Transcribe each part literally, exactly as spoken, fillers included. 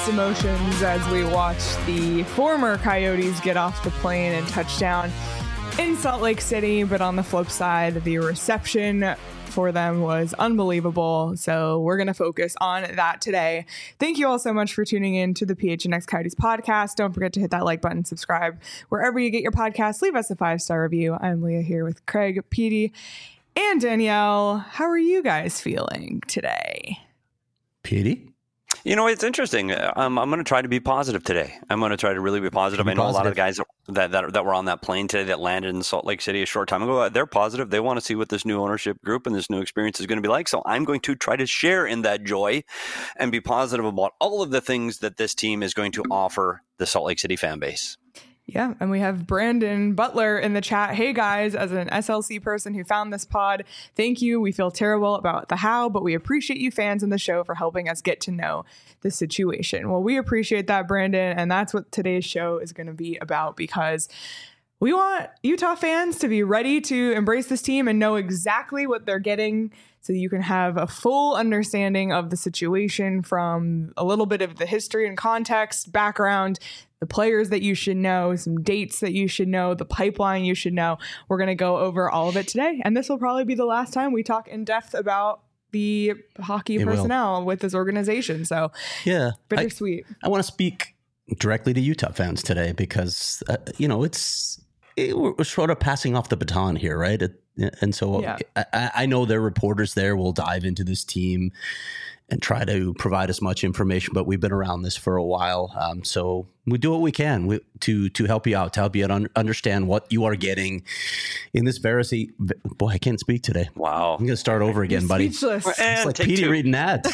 mixed emotions as we watch the former Coyotes get off the plane and touch down in Salt Lake City. But on the flip side, the reception for them was unbelievable. So we're going to focus on that today. Thank you all so much for tuning in to the P H N X Coyotes podcast. Don't forget to hit that like button, subscribe wherever you get your podcasts. Leave us a five-star review. I'm Leah here with Craig, Petey, and Danielle. How are you guys feeling today? Petey? You know, it's interesting. Um, I'm going to try to be positive today. I'm going to try to really be positive. Be I know positive. A lot of the guys that, that that were on that plane today that landed in Salt Lake City a short time ago, they're positive. They want to see what this new ownership group and this new experience is going to be like. So I'm going to try to share in that joy and be positive about all of the things that this team is going to offer the Salt Lake City fan base. Yeah, and we have Brandon Butler in the chat. Hey guys, as an S L C person who found this pod, thank you. We feel terrible about the how, but we appreciate you fans in the show for helping us get to know the situation. Well, we appreciate that, Brandon, and that's what today's show is going to be about, because we want Utah fans to be ready to embrace this team and know exactly what they're getting, so you can have a full understanding of the situation from a little bit of the history and context, background, the players that you should know, some dates that you should know, the pipeline you should know. We're going to go over all of it today. And this will probably be the last time we talk in depth about the hockey it personnel will. with this organization. So yeah, bittersweet. I, I want to speak directly to Utah fans today because, uh, you know, it's it, we're sort of passing off the baton here, right? It, and so yeah. I, I know their reporters there will dive into this team and try to provide as much information, but we've been around this for a while. Um, so we do what we can we, to to help you out, to help you un- understand what you are getting in this very... Boy, I can't speak today. Wow. I'm going to start over again, You're buddy. Speechless. It's like Petey two. reading ads.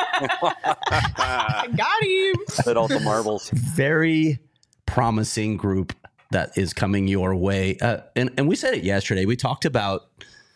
Got him. Hit all the marbles. Very promising group that is coming your way. Uh, and, and we said it yesterday. We talked about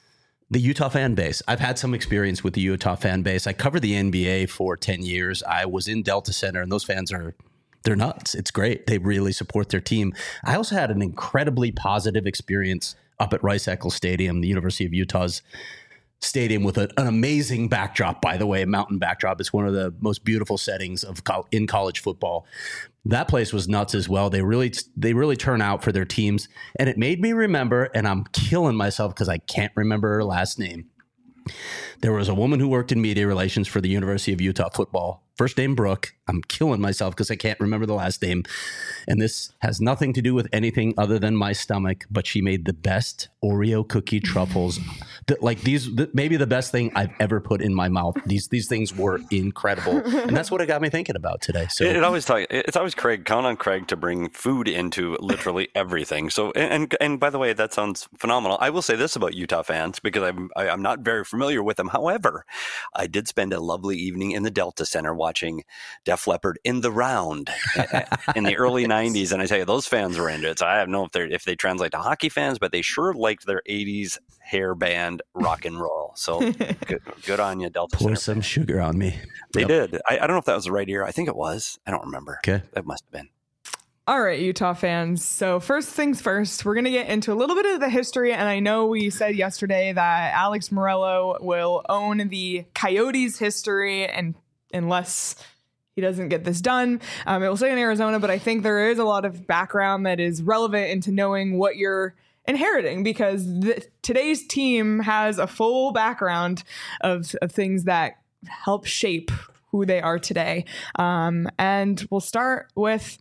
the Utah fan base. I've had some experience with the Utah fan base. I covered the N B A for ten years. I was in Delta Center, and those fans are, they're nuts. It's great. They really support their team. I also had an incredibly positive experience up at Rice-Eccles Stadium, the University of Utah's stadium, with a, an amazing backdrop, by the way, a mountain backdrop. It's one of the most beautiful settings of co- in college football. That place was nuts as well. They really, they really turn out for their teams. And it made me remember, and I'm killing myself because I can't remember her last name. There was a woman who worked in media relations for the University of Utah football. First name Brooke. I'm killing myself because I can't remember the last name. And this has nothing to do with anything other than my stomach, but she made the best Oreo cookie truffles. That, like these, th- maybe the best thing I've ever put in my mouth. These these things were incredible. And that's what it got me thinking about today. So it, it always talk, it's always Craig, count on Craig to bring food into literally everything. So, and, and by the way, that sounds phenomenal. I will say this about Utah fans, because I'm, I, I'm not very familiar with them. However, I did spend a lovely evening in the Delta Center watching Def Leppard in the Round in the early nineties. And I tell you, those fans were into it. So I don't know if they if they translate to hockey fans, but they sure liked their eighties hair band rock and roll. So good, good on you, Delta Pour Center some fans. Sugar on me. They Yep. did. I, I don't know if that was the right year. I think it was. I don't remember. Okay. That must have been. All right, Utah fans. So first things first, we're going to get into a little bit of the history. And I know we said yesterday that Alex Morello will own the Coyotes history, and unless he doesn't get this done, um, it will stay in Arizona. But I think there is a lot of background that is relevant into knowing what you're inheriting, because the, today's team has a full background of, of things that help shape who they are today. Um, and we'll start with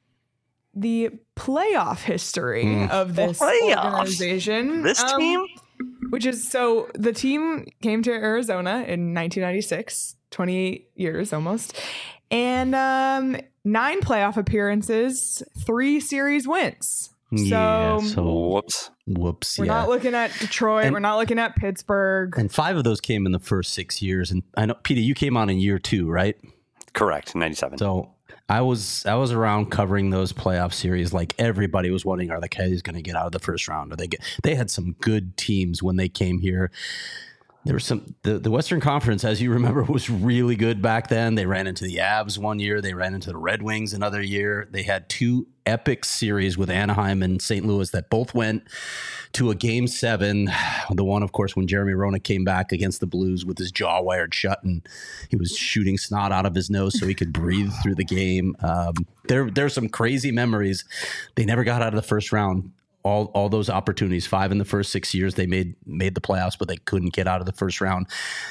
the playoff history mm. of this Playoffs. organization. This um, team? Which is, so the team came to Arizona in nineteen ninety-six, twenty-eight years almost, and um, nine playoff appearances, three series wins. So, yeah, so whoops. Whoops. We're yeah. not looking at Detroit. And, we're not looking at Pittsburgh. And five of those came in the first six years. And I know, Peter, you came on in year two, right? Correct, ninety-seven. So I was I was around covering those playoff series. Like everybody was wondering, are the Coyotes going to get out of the first round? Or they get? They had some good teams when they came here. There was some the, the Western Conference, as you remember, was really good back then. They ran into the Avs one year. They ran into the Red Wings another year. They had two epic series with Anaheim and Saint Louis that both went to a game seven. The one, of course, when Jeremy Roenick came back against the Blues with his jaw wired shut and he was shooting snot out of his nose so he could breathe through the game. Um, there, there's some crazy memories. They never got out of the first round. All all those opportunities, five in the first six years, they made made the playoffs, but they couldn't get out of the first round.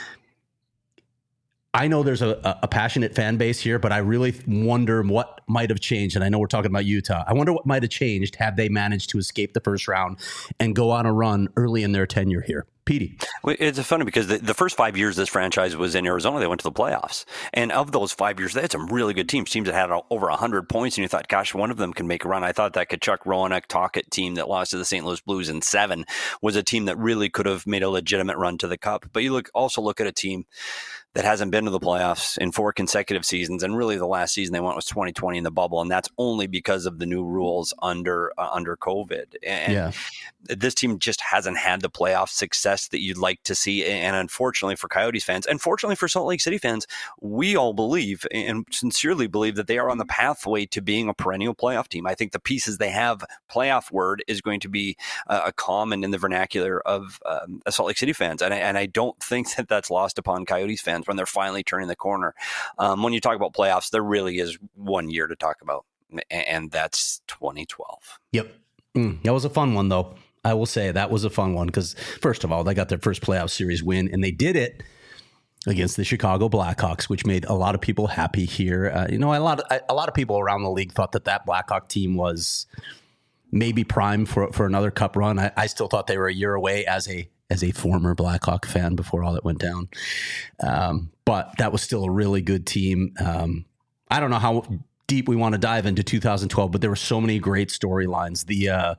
I know there's a, a passionate fan base here, but I really wonder what might have changed. And I know we're talking about Utah. I wonder what might have changed had they managed to escape the first round and go on a run early in their tenure here. Petey. Well, it's funny because the, the first five years this franchise was in Arizona, they went to the playoffs. And of those five years, they had some really good teams, teams that had over one hundred points. And you thought, gosh, one of them can make a run. I thought that Tkachuk, Roenick, Tocchet team that lost to the Saint Louis Blues in seven was a team that really could have made a legitimate run to the Cup. But you look also look at a team that hasn't been to the playoffs in four consecutive seasons. And really the last season they went was twenty twenty in the bubble. And that's only because of the new rules under uh, under COVID. And yeah. This team just hasn't had the playoff success that you'd like to see. And unfortunately for Coyotes fans, and fortunately for Salt Lake City fans, we all believe and sincerely believe that they are on the pathway to being a perennial playoff team. I think the pieces they have, playoff word is going to be uh, a common in the vernacular of um, Salt Lake City fans. And I, and I don't think that that's lost upon Coyotes fans when they're finally turning the corner. Um, when you talk about playoffs, there really is one year to talk about, and that's twenty twelve. Yep. Mm, that was a fun one, though. I will say that was a fun one because, first of all, they got their first playoff series win, and they did it against the Chicago Blackhawks, which made a lot of people happy here. Uh, you know, a lot of a lot of people around the league thought that that Blackhawk team was maybe prime for for another Cup run. I, I still thought they were a year away as a as a former Blackhawk fan before all that went down. Um, but that was still a really good team. Um, I don't know how deep we want to dive into two thousand twelve, but there were so many great storylines. The uh,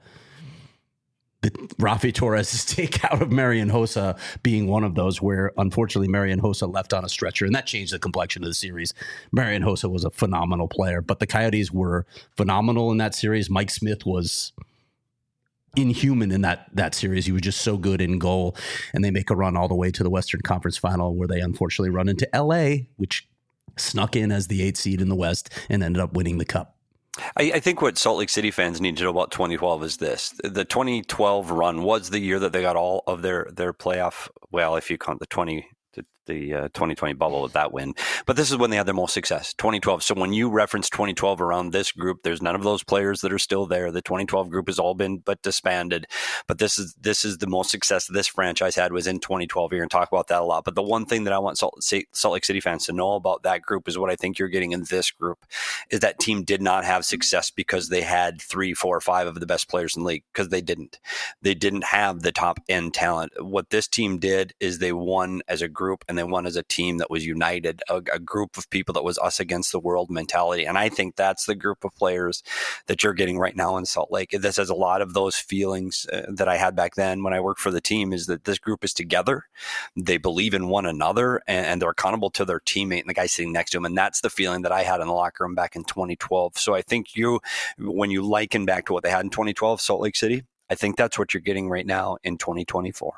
The Rafi Torres' takeout of Marian Hossa being one of those where, unfortunately, Marian Hossa left on a stretcher, and that changed the complexion of the series. Marian Hossa was a phenomenal player, but the Coyotes were phenomenal in that series. Mike Smith was inhuman in that that series. He was just so good in goal, and they make a run all the way to the Western Conference Final where they unfortunately run into L A, which snuck in as the eighth seed in the West and ended up winning the Cup. I, I think what Salt Lake City fans need to know about twenty twelve is this. The twenty twelve run was the year that they got all of their, their playoff, well, if you count the twenty the, the uh, twenty twenty bubble with that win. But this is when they had their most success, twenty twelve. So when you reference twenty twelve around this group, there's none of those players that are still there. The twenty twelve group has all been but disbanded. But this is this is the most success this franchise had was in twenty twelve. You're going to talk about that a lot. But the one thing that I want Salt, Salt Lake City fans to know about that group is what I think you're getting in this group is that team did not have success because they had three, four, five of the best players in the league, because they didn't. They didn't have the top end talent. What this team did is they won as a group, and they won as a team that was united, a, a group of people that was us against the world mentality. And I think that's the group of players that you're getting right now in Salt Lake. This has a lot of those feelings uh, that I had back then when I worked for the team, is that this group is together. They believe in one another, and, and they're accountable to their teammate and the guy sitting next to him. And that's the feeling that I had in the locker room back in twenty twelve. So I think you, when you liken back to what they had in twenty twelve, Salt Lake City, I think that's what you're getting right now in twenty twenty-four.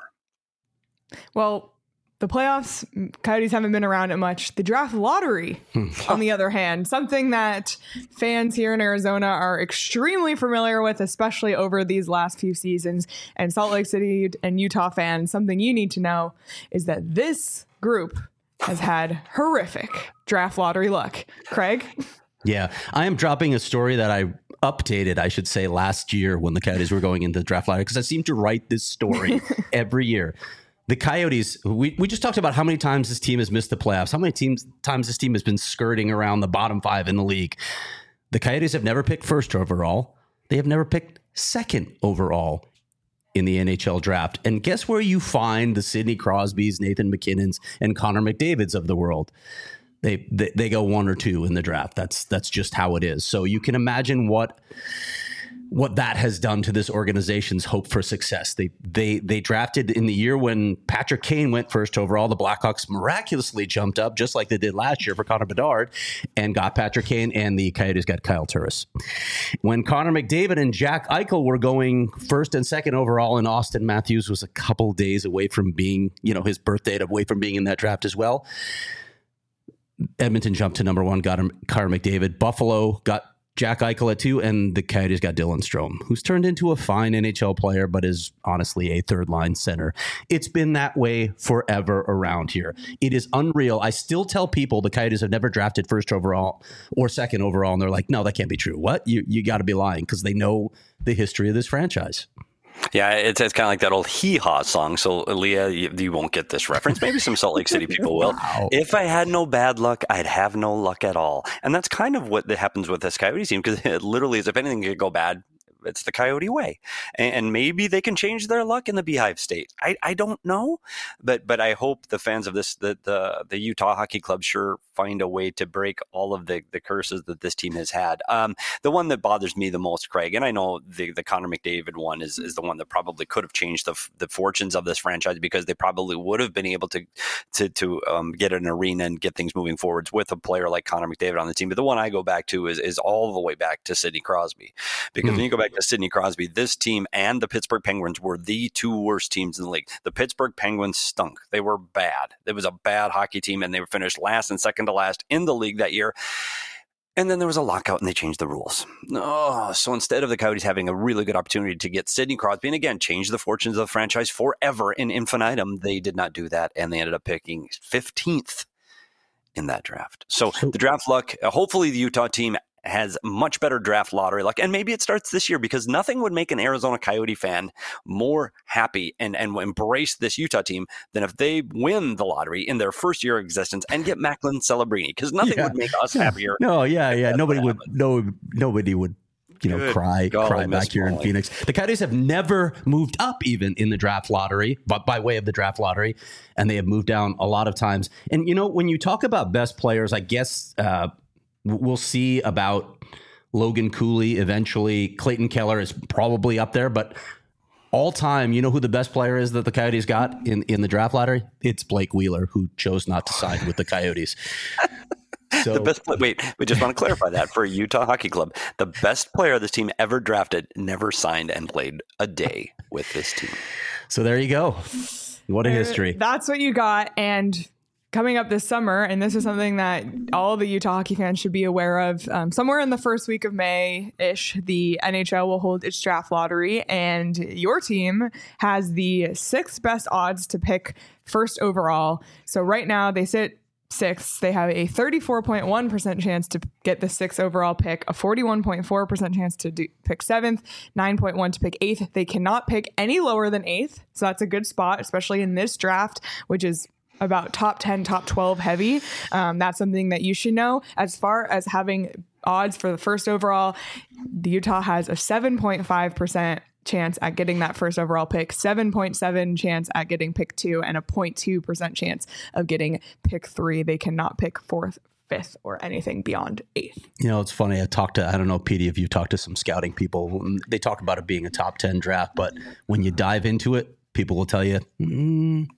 Well, the playoffs, Coyotes haven't been around it much. The draft lottery, on the other hand, something that fans here in Arizona are extremely familiar with, especially over these last few seasons. And Salt Lake City and Utah fans, something you need to know is that this group has had horrific draft lottery luck. Craig? Yeah, I am dropping a story that I updated, I should say, last year when the Coyotes were going into the draft lottery, because I seem to write this story every year. The Coyotes, we, we just talked about how many times this team has missed the playoffs, how many teams times this team has been skirting around the bottom five in the league. The Coyotes have never picked first overall. They have never picked second overall in the N H L draft. And guess where you find the Sidney Crosbys, Nathan McKinnons, and Connor McDavids of the world? They, they they go one or two in the draft. That's that's just how it is. So you can imagine what what that has done to this organization's hope for success. They they they drafted in the year when Patrick Kane went first overall. The Blackhawks miraculously jumped up, just like they did last year for Connor Bedard, and got Patrick Kane, and the Coyotes got Kyle Turris. When Connor McDavid and Jack Eichel were going first and second overall, and Austin Matthews was a couple days away from being, you know, his birthday away from being in that draft as well, Edmonton jumped to number one, got him Connor McDavid. Buffalo got Jack Eichel at two, and the Coyotes got Dylan Strome, who's turned into a fine N H L player, but is honestly a third-line center. It's been that way forever around here. It is unreal. I still tell people the Coyotes have never drafted first overall or second overall, and they're like, no, that can't be true. What? You you got to be lying, because they know the history of this franchise. Yeah, it's, it's kind of like that old hee-haw song. So, Leah, you, you won't get this reference. Maybe some Salt Lake City people will. Wow. If I had no bad luck, I'd have no luck at all. And that's kind of what happens with this Coyotes team, because it literally is, if anything could go bad, it's the Coyote way. And, and maybe they can change their luck in the Beehive State. I, I don't know, but but I hope the fans of this, the, the, the Utah Hockey Club sure find a way to break all of the, the curses that this team has had. Um, the one that bothers me the most, Craig, and I know the, the Connor McDavid one is, is the one that probably could have changed the the fortunes of this franchise, because they probably would have been able to to, to um, get an arena and get things moving forwards with a player like Connor McDavid on the team. But the one I go back to is, is all the way back to Sidney Crosby, because mm. when you go back to Sidney Crosby, this team and the Pittsburgh Penguins were the two worst teams in the league. The Pittsburgh Penguins stunk. They were bad. It was a bad hockey team, and they were finished last and second to last in the league that year. And then there was a lockout, and they changed the rules. Oh, so instead of the Coyotes having a really good opportunity to get Sidney Crosby, and again, change the fortunes of the franchise forever in infinitum, they did not do that, and they ended up picking fifteenth in that draft. So the draft luck, uh, hopefully the Utah team has much better draft lottery luck, and maybe it starts this year, because nothing would make an Arizona Coyote fan more happy and, and embrace this Utah team than if they win the lottery in their first year of existence and get Macklin Celebrini, because nothing yeah. would make us happier. No, yeah, yeah. Nobody would, no, nobody would, you know, Good cry, God, cry back here in Phoenix. The Coyotes have never moved up even in the draft lottery, but by way of the draft lottery, and they have moved down a lot of times. And, you know, when you talk about best players, I guess, uh, we'll see about Logan Cooley eventually. Clayton Keller is probably up there, but all time, you know who the best player is that the Coyotes got in, in the draft lottery? It's Blake Wheeler, who chose not to sign with the Coyotes. So, the best play, wait, we just want to clarify that for Utah Hockey Club. The best player this team ever drafted never signed and played a day with this team. So there you go. What a history. That's what you got. And coming up this summer, and this is something that all the Utah hockey fans should be aware of, um, somewhere in the first week of May-ish, the N H L will hold its draft lottery, and your team has the sixth best odds to pick first overall. So right now they sit sixth. They have a thirty-four point one percent chance to get the sixth overall pick, a forty-one point four percent chance to do, pick seventh, nine point one to pick eighth. They cannot pick any lower than eighth, so that's a good spot, especially in this draft, which is about top ten, top twelve heavy. Um, that's something that you should know. As far as having odds for the first overall, the Utah has a seven point five percent chance at getting that first overall pick, seven point seven chance at getting pick two, and a zero point two percent chance of getting pick three. They cannot pick fourth, fifth, or anything beyond eighth. You know, it's funny. I talked to, I don't know, Petey, if you talked to some scouting people, they talk about it being a top ten draft, but when you dive into it, people will tell you, mm,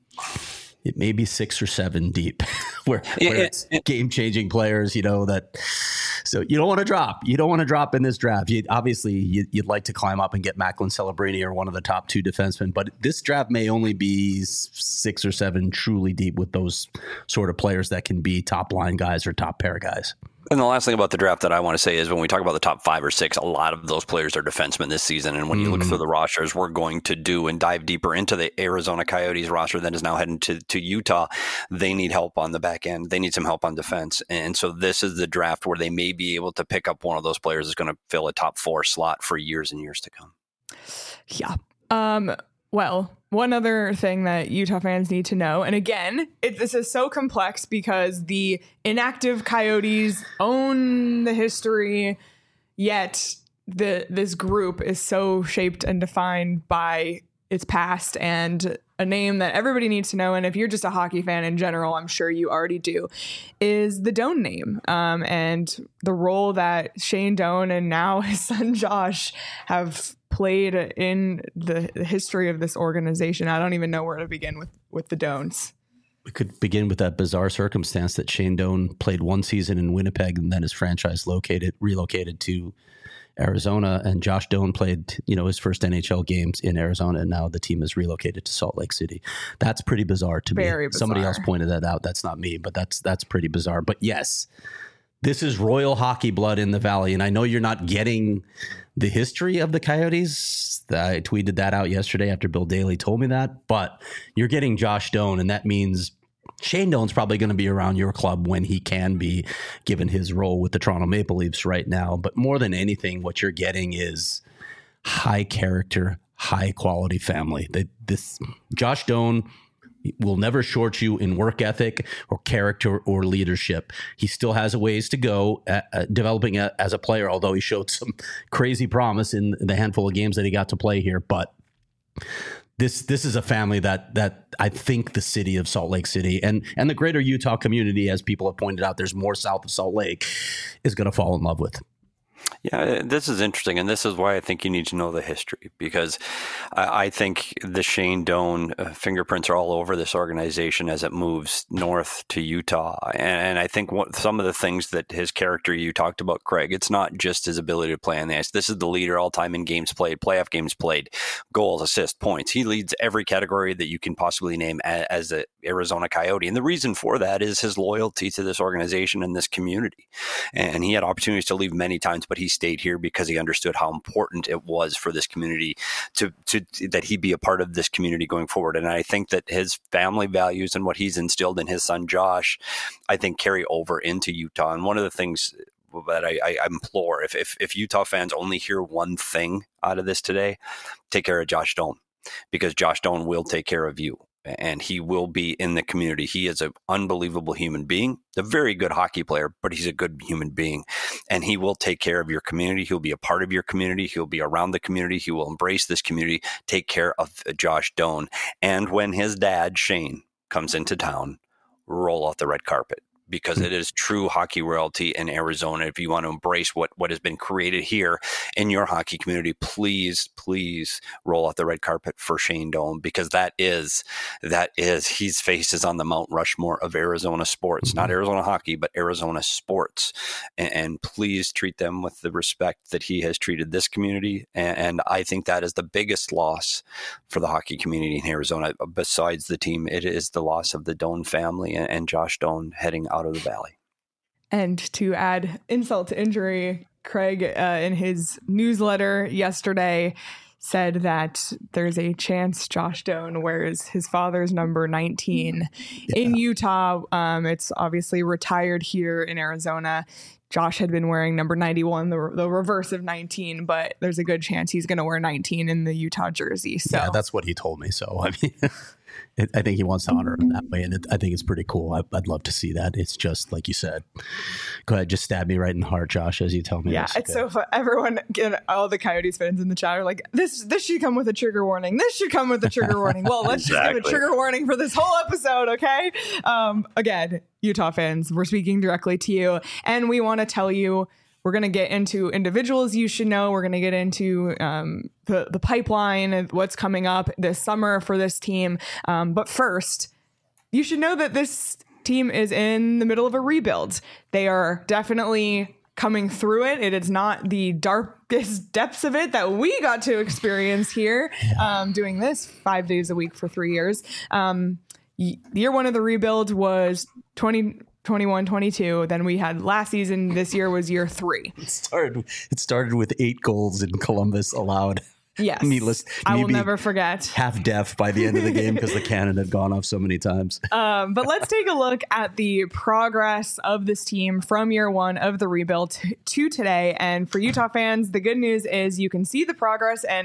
it may be six or seven deep, where, where it's game-changing players, you know, that. So you don't want to drop. You don't want to drop in this draft. You, obviously, you, you'd like to climb up and get Macklin Celebrini or one of the top two defensemen, but this draft may only be six or seven truly deep with those sort of players that can be top line guys or top pair guys. And the last thing about the draft that I want to say is when we talk about the top five or six, a lot of those players are defensemen this season. And when you mm-hmm. look through the rosters, we're going to do and dive deeper into the Arizona Coyotes roster that is now heading to, to Utah. They need help on the back end. They need some help on defense. And so this is the draft where they may be able to pick up one of those players that's going to fill a top four slot for years and years to come. Yeah. Um, well, one other thing that Utah fans need to know, and again, it, this is so complex because the inactive Coyotes own the history, yet the this group is so shaped and defined by its past, and a name that everybody needs to know, and if you're just a hockey fan in general, I'm sure you already do, is the Doan name, um, and the role that Shane Doan and now his son Josh have played in the, the history of this organization. I don't even know where to begin with, with the Doans. We could begin with that bizarre circumstance that Shane Doan played one season in Winnipeg and then his franchise located relocated to Arizona, and Josh Doan played, you know, his first N H L games in Arizona, and now the team is relocated to Salt Lake City. That's pretty bizarre to Very me. bizarre. Somebody else pointed that out. That's not me, but that's that's pretty bizarre. But yes, this is royal hockey blood in the Valley, and I know you're not getting the history of the Coyotes. I tweeted that out yesterday after Bill Daly told me that, but you're getting Josh Doan, and that means Shane Doan's probably going to be around your club when he can be, given his role with the Toronto Maple Leafs right now. But more than anything, what you're getting is high character, high quality family. That this Josh Doan will never short you in work ethic or character or leadership. He still has a ways to go at, uh, developing a, as a player, although he showed some crazy promise in the handful of games that he got to play here. But This this is a family that that I think the city of Salt Lake City and and the greater Utah community, as people have pointed out, there's more south of Salt Lake, is going to fall in love with. Yeah, this is interesting, and this is why I think you need to know the history, because I, I think the Shane Doan uh, fingerprints are all over this organization as it moves north to Utah. And, and I think what, some of the things that his character you talked about, Craig, it's not just his ability to play on the ice. This is the leader all time in games played, playoff games played, goals, assists, points. He leads every category that you can possibly name as, as an Arizona Coyote. And the reason for that is his loyalty to this organization and this community. And he had opportunities to leave many times, but he stayed here because he understood how important it was for this community to, to that he be a part of this community going forward. And I think that his family values and what he's instilled in his son Josh, I think carry over into Utah. And one of the things that I, I implore, if, if if Utah fans only hear one thing out of this today, take care of Josh Doan, because Josh Doan will take care of you. And he will be in the community. He is an unbelievable human being, a very good hockey player, but he's a good human being. And he will take care of your community. He'll be a part of your community. He'll be around the community. He will embrace this community, take care of Josh Doan. And when his dad, Shane, comes into town, roll out the red carpet, because it is true hockey royalty in Arizona. If you want to embrace what, what has been created here in your hockey community, please, please roll out the red carpet for Shane Doan, because that is, that is, his face is on the Mount Rushmore of Arizona sports, not Arizona hockey, but Arizona sports. And, and please treat them with the respect that he has treated this community. And, and I think that is the biggest loss for the hockey community in Arizona. Besides the team, it is the loss of the Doan family and, and Josh Doan heading out of the Valley. And to add insult to injury, Craig, uh, in his newsletter yesterday, said that there's a chance Josh Doan wears his father's number nineteen yeah. in Utah. Um, it's obviously retired here in Arizona. Josh had been wearing number ninety-one, the, the reverse of nineteen, but there's a good chance he's going to wear nineteen in the Utah jersey. So yeah, that's what he told me. So I mean, it, I think he wants to honor him that way, and it, I think it's pretty cool. I, I'd love to see that. It's just like you said. Go ahead, just stab me right in the heart, Josh, as you tell me. Yeah, this. it's okay. So fun. Everyone, all the Coyotes fans in the chat are like, "This, this should come with a trigger warning. This should come with a trigger warning." Well, let's exactly. just give a trigger warning for this whole episode, okay? Um, again, Utah fans, we're speaking directly to you, and we want to tell you. We're going to get into individuals you should know. We're going to get into um, the, the pipeline and what's coming up this summer for this team. Um, but first, you should know that this team is in the middle of a rebuild. They are definitely coming through it. It is not the darkest depths of it that we got to experience here um, doing this five days a week for three years. Um, year one of the rebuild was twenty twenty-one twenty-two. Then we had last season. This year was year three. It started. It started with eight goals in Columbus allowed. Yes, needless. I will never forget. Half deaf by the end of the game because the cannon had gone off so many times. Um, but let's take a look at the progress of this team from year one of the rebuild to, to today. And for Utah fans, the good news is you can see the progress and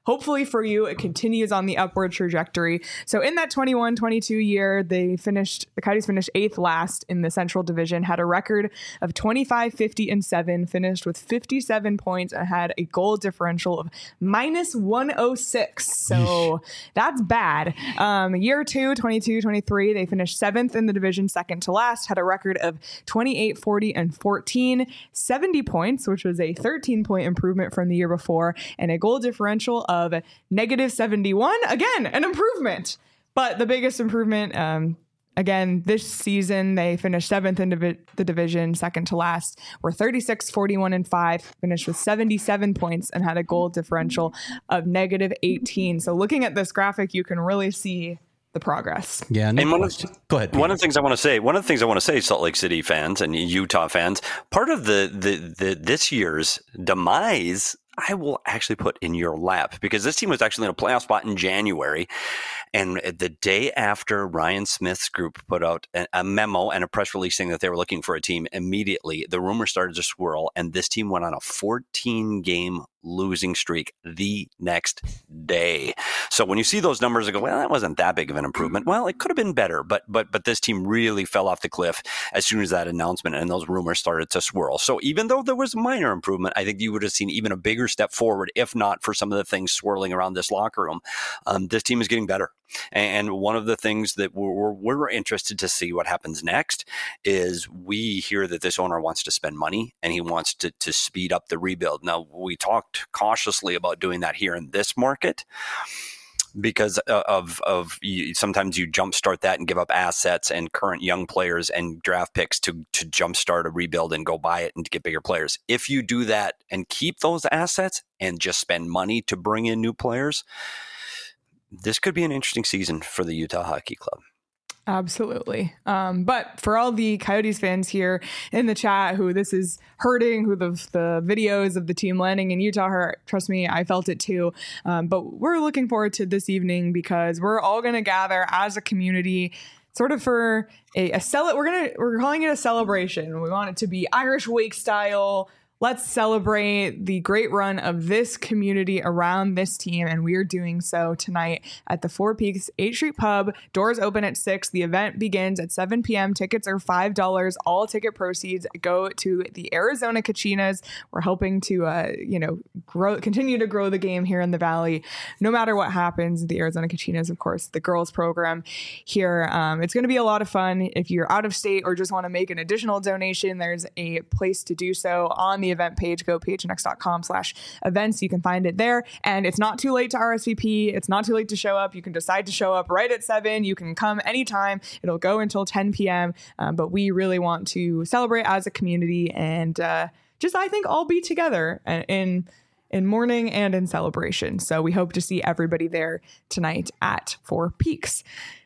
hopefully for you, it continues on the upward trajectory. So in that twenty-one twenty-two year, they finished, the Coyotes finished eighth last in the Central Division, had a record of twenty-five, fifty, and seven, finished with fifty-seven points, and had a goal differential of minus one oh six. So that's bad. Um, year two, twenty-two twenty-three, they finished seventh in the division, second to last, had a record of twenty-eight, forty, and fourteen, seventy points, which was a thirteen point improvement from the year before, and a goal differential of negative seventy-one. Again, an improvement. But the biggest improvement, um, again, this season, they finished seventh in divi- the division, second to last, were thirty-six, forty-one, and five, finished with seventy-seven points, and had a goal differential of negative eighteen. So looking at this graphic, you can really see the progress. Yeah. No and one of, go ahead. Peter. One of the things I want to say, one of the things I want to say, Salt Lake City fans and Utah fans, part of the, the, the this year's demise, I will actually put in your lap, because this team was actually in a playoff spot in January. And the day after Ryan Smith's group put out a, a memo and a press release saying that they were looking for a team, immediately the rumor started to swirl, and this team went on a fourteen game losing streak the next day. So when you see those numbers, you go, well, that wasn't that big of an improvement. Well, it could have been better, but but but this team really fell off the cliff as soon as that announcement and those rumors started to swirl. So even though there was minor improvement, I think you would have seen even a bigger step forward, if not for some of the things swirling around this locker room. Um, this team is getting better. And one of the things that we're, we're interested to see what happens next is we hear that this owner wants to spend money and he wants to, to speed up the rebuild. Now, we talked cautiously about doing that here in this market because of, of you, sometimes you jumpstart that and give up assets and current young players and draft picks to, to jumpstart a rebuild and go buy it and to get bigger players. If you do that and keep those assets and just spend money to bring in new players, this could be an interesting season for the Utah Hockey Club. Absolutely. Um, but for all the Coyotes fans here in the chat who this is hurting, who the, the videos of the team landing in Utah hurt, trust me, I felt it too. Um, but we're looking forward to this evening because we're all going to gather as a community sort of for a, a cel- we're going to, we're calling it a celebration. We want it to be Irish Wake style. Let's celebrate the great run of this community around this team, and we are doing so tonight at the Four Peaks eighth Street Pub. Doors open at six. The event begins at seven p.m. Tickets are five dollars. All ticket proceeds go to the Arizona Kachinas. We're hoping to, uh, you know, grow, continue to grow the game here in the Valley. No matter what happens, the Arizona Kachinas, of course, the girls program here. Um, it's going to be a lot of fun. If you're out of state or just want to make an additional donation, there's a place to do so on the event page. Go phnx.com slash events. You can find it there. And it's not too late to R S V P. It's not too late to show up. You can decide to show up right at seven. You can come anytime. It'll go until ten p.m. Um, but we really want to celebrate as a community and uh, just, I think, all be together in in mourning and in celebration. So we hope to see everybody there tonight at Four Peaks.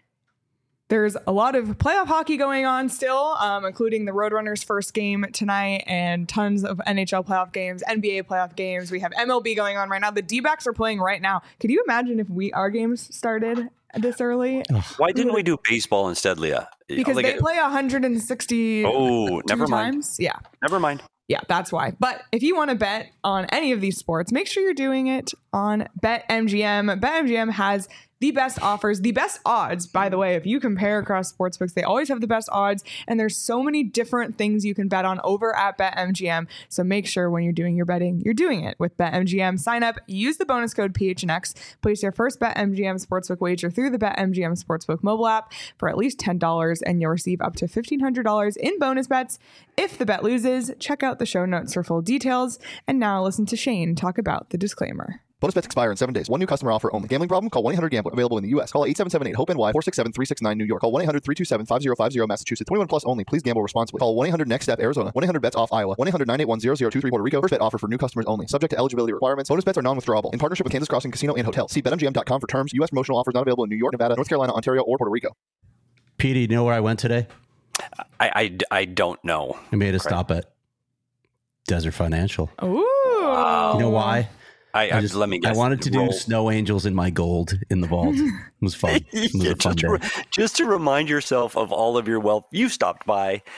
There's a lot of playoff hockey going on still, um, including the Roadrunners' first game tonight and tons of N H L playoff games, N B A playoff games. We have M L B going on right now. The D-backs are playing right now. Could you imagine if we our games started this early? Why didn't we do baseball instead, Leah? Because like they it, play one hundred sixty Oh, never mind. Times. Yeah. Never mind. Yeah, that's why. But if you want to bet on any of these sports, make sure you're doing it on BetMGM. BetMGM has the best offers, the best odds, by the way. If you compare across sportsbooks, they always have the best odds. And there's so many different things you can bet on over at BetMGM. So make sure when you're doing your betting, you're doing it with BetMGM. Sign up, use the bonus code P H N X, place your first BetMGM Sportsbook wager through the BetMGM Sportsbook mobile app for at least ten dollars, and you'll receive up to fifteen hundred dollars in bonus bets. If the bet loses, check out the show notes for full details. And now listen to Shane talk about the disclaimer. Bonus bets expire in seven days. One new customer offer only. Gambling problem? Call one eight hundred gambler. Available in the U S. Call eight seven seven eight hope N Y four six seven three six nine New York. Call one eight hundred three two seven five zero five zero Massachusetts. twenty-one plus only. Please gamble responsibly. Call one eight hundred next step Arizona. one eight hundred bets off Iowa. one eight hundred nine eight one zero zero two three Puerto Rico. First bet offer for new customers only. Subject to eligibility requirements. Bonus bets are non-withdrawable. In partnership with Kansas Crossing Casino and Hotel. See bet M G M dot com for terms. U S promotional offers not available in New York, Nevada, North Carolina, Ontario, or Puerto Rico. Petey, you know where I went today? I, I, I don't know. I made a stop at Desert Financial. Ooh. Wow. You know why? I, I just let me guess. I wanted to roll. do Snow Angels in my gold in the vault. It was fun. It was yeah, a fun just, to, day. just to remind yourself of all of your wealth. You stopped by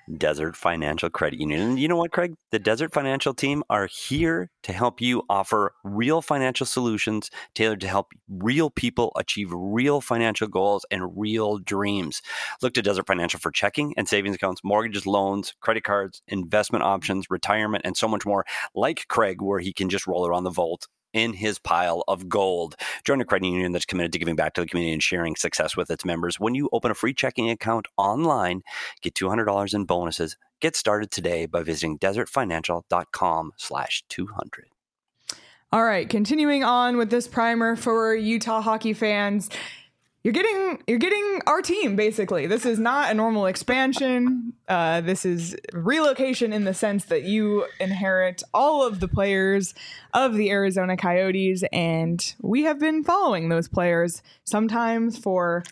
Desert Financial Credit Union. And you know what, Craig? The Desert Financial team are here to help you offer real financial solutions tailored to help real people achieve real financial goals and real dreams. Look to Desert Financial for checking and savings accounts, mortgages, loans, credit cards, investment options, retirement, and so much more. Like Craig, where he can just roll around the vault in his pile of gold. Join a credit union that's committed to giving back to the community and sharing success with its members. When you open a free checking account online, get two hundred dollars in bonuses. Get started today by visiting desertfinancial.com slash 200. All right, continuing on with this primer for Utah hockey fans. You're getting you're getting our team, basically. This is not a normal expansion. Uh, this is relocation in the sense that you inherit all of the players of the Arizona Coyotes, and we have been following those players, sometimes for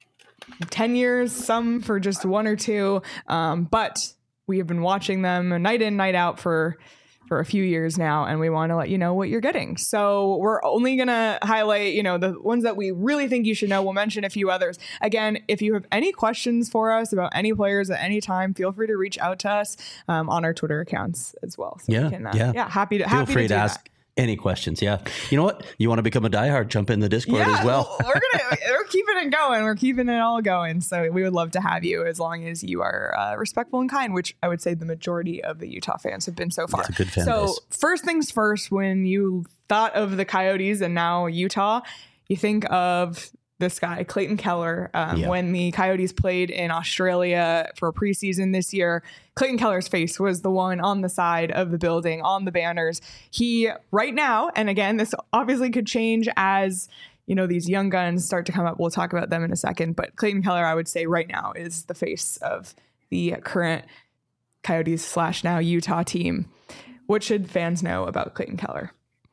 ten years, some for just one or two, um, but we have been watching them night in, night out for for a few years now, and we want to let you know what you're getting. So we're only going to highlight, you know, the ones that we really think you should know. We'll mention a few others. Again, if you have any questions for us about any players at any time, feel free to reach out to us um, on our Twitter accounts as well. So yeah, we can, uh, yeah. Yeah, happy to, feel happy free to, to do ask that. any questions. Yeah. You know what? You want to become a diehard, jump in the Discord Yeah, as well. we're gonna we're keeping it going. We're keeping it all going. So we would love to have you as long as you are uh, respectful and kind, which I would say the majority of the Utah fans have been so far. It's a good fan so base. First things first, when you thought of the Coyotes and now Utah, you think of this guy, Clayton Keller. Um, Yeah. When the Coyotes played in Australia for preseason this year, Clayton Keller's face was the one on the side of the building, on the banners. He, right now, and again, this obviously could change as, you know, these young guns start to come up. We'll talk about them in a second. But Clayton Keller, I would say right now, is the face of the current Coyotes slash now Utah team. What should fans know about Clayton Keller?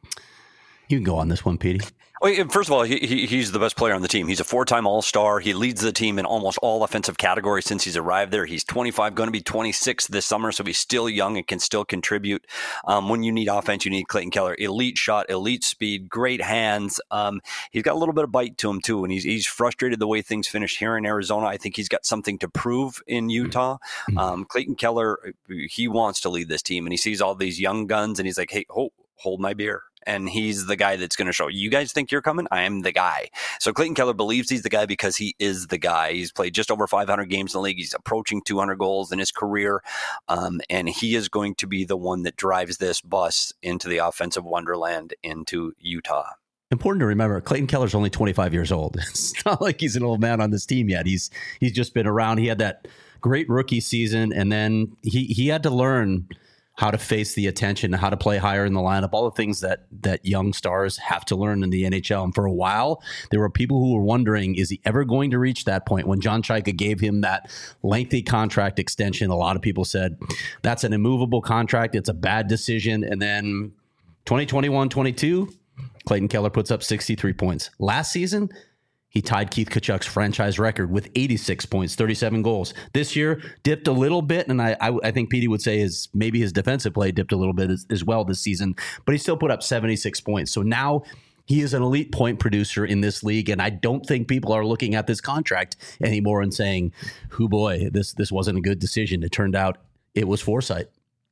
You can go on this one, Petey. Well, first of all, he, he, he's the best player on the team. He's a four-time All-Star. He leads the team in almost all offensive categories since he's arrived there. He's twenty-five, going to be twenty-six this summer, so he's still young and can still contribute. Um, when you need offense, you need Clayton Keller. Elite shot, elite speed, great hands. Um, he's got a little bit of bite to him, too, and he's he's frustrated the way things finished here in Arizona. I think he's got something to prove in Utah. Um, Clayton Keller, he wants to lead this team, and he sees all these young guns, and he's like, hey, hold, hold my beer. And he's the guy that's going to show you guys think you're coming. I am the guy. So Clayton Keller believes he's the guy because he is the guy. He's played just over five hundred games in the league. He's approaching two hundred goals in his career. Um, and he is going to be the one that drives this bus into the offensive wonderland into Utah. Important to remember, Clayton Keller's only twenty-five years old. It's not like he's an old man on this team yet. He's he's just been around. He had that great rookie season, and then he he had to learn how to face the attention, how to play higher in the lineup, all the things that that young stars have to learn in the N H L. And for a while, there were people who were wondering, is he ever going to reach that point? When John Chayka gave him that lengthy contract extension, a lot of people said, that's an immovable contract. It's a bad decision. And then twenty twenty-one twenty-two, Clayton Keller puts up sixty-three points. Last season, he tied Keith Tkachuk's franchise record with eighty-six points, thirty-seven goals. This year, dipped a little bit, and I I, I think Petey would say is maybe his defensive play dipped a little bit as, as well this season, but he still put up seventy-six points. So now he is an elite point producer in this league, and I don't think people are looking at this contract anymore and saying, "Hoo boy, this this wasn't a good decision." It turned out it was foresight.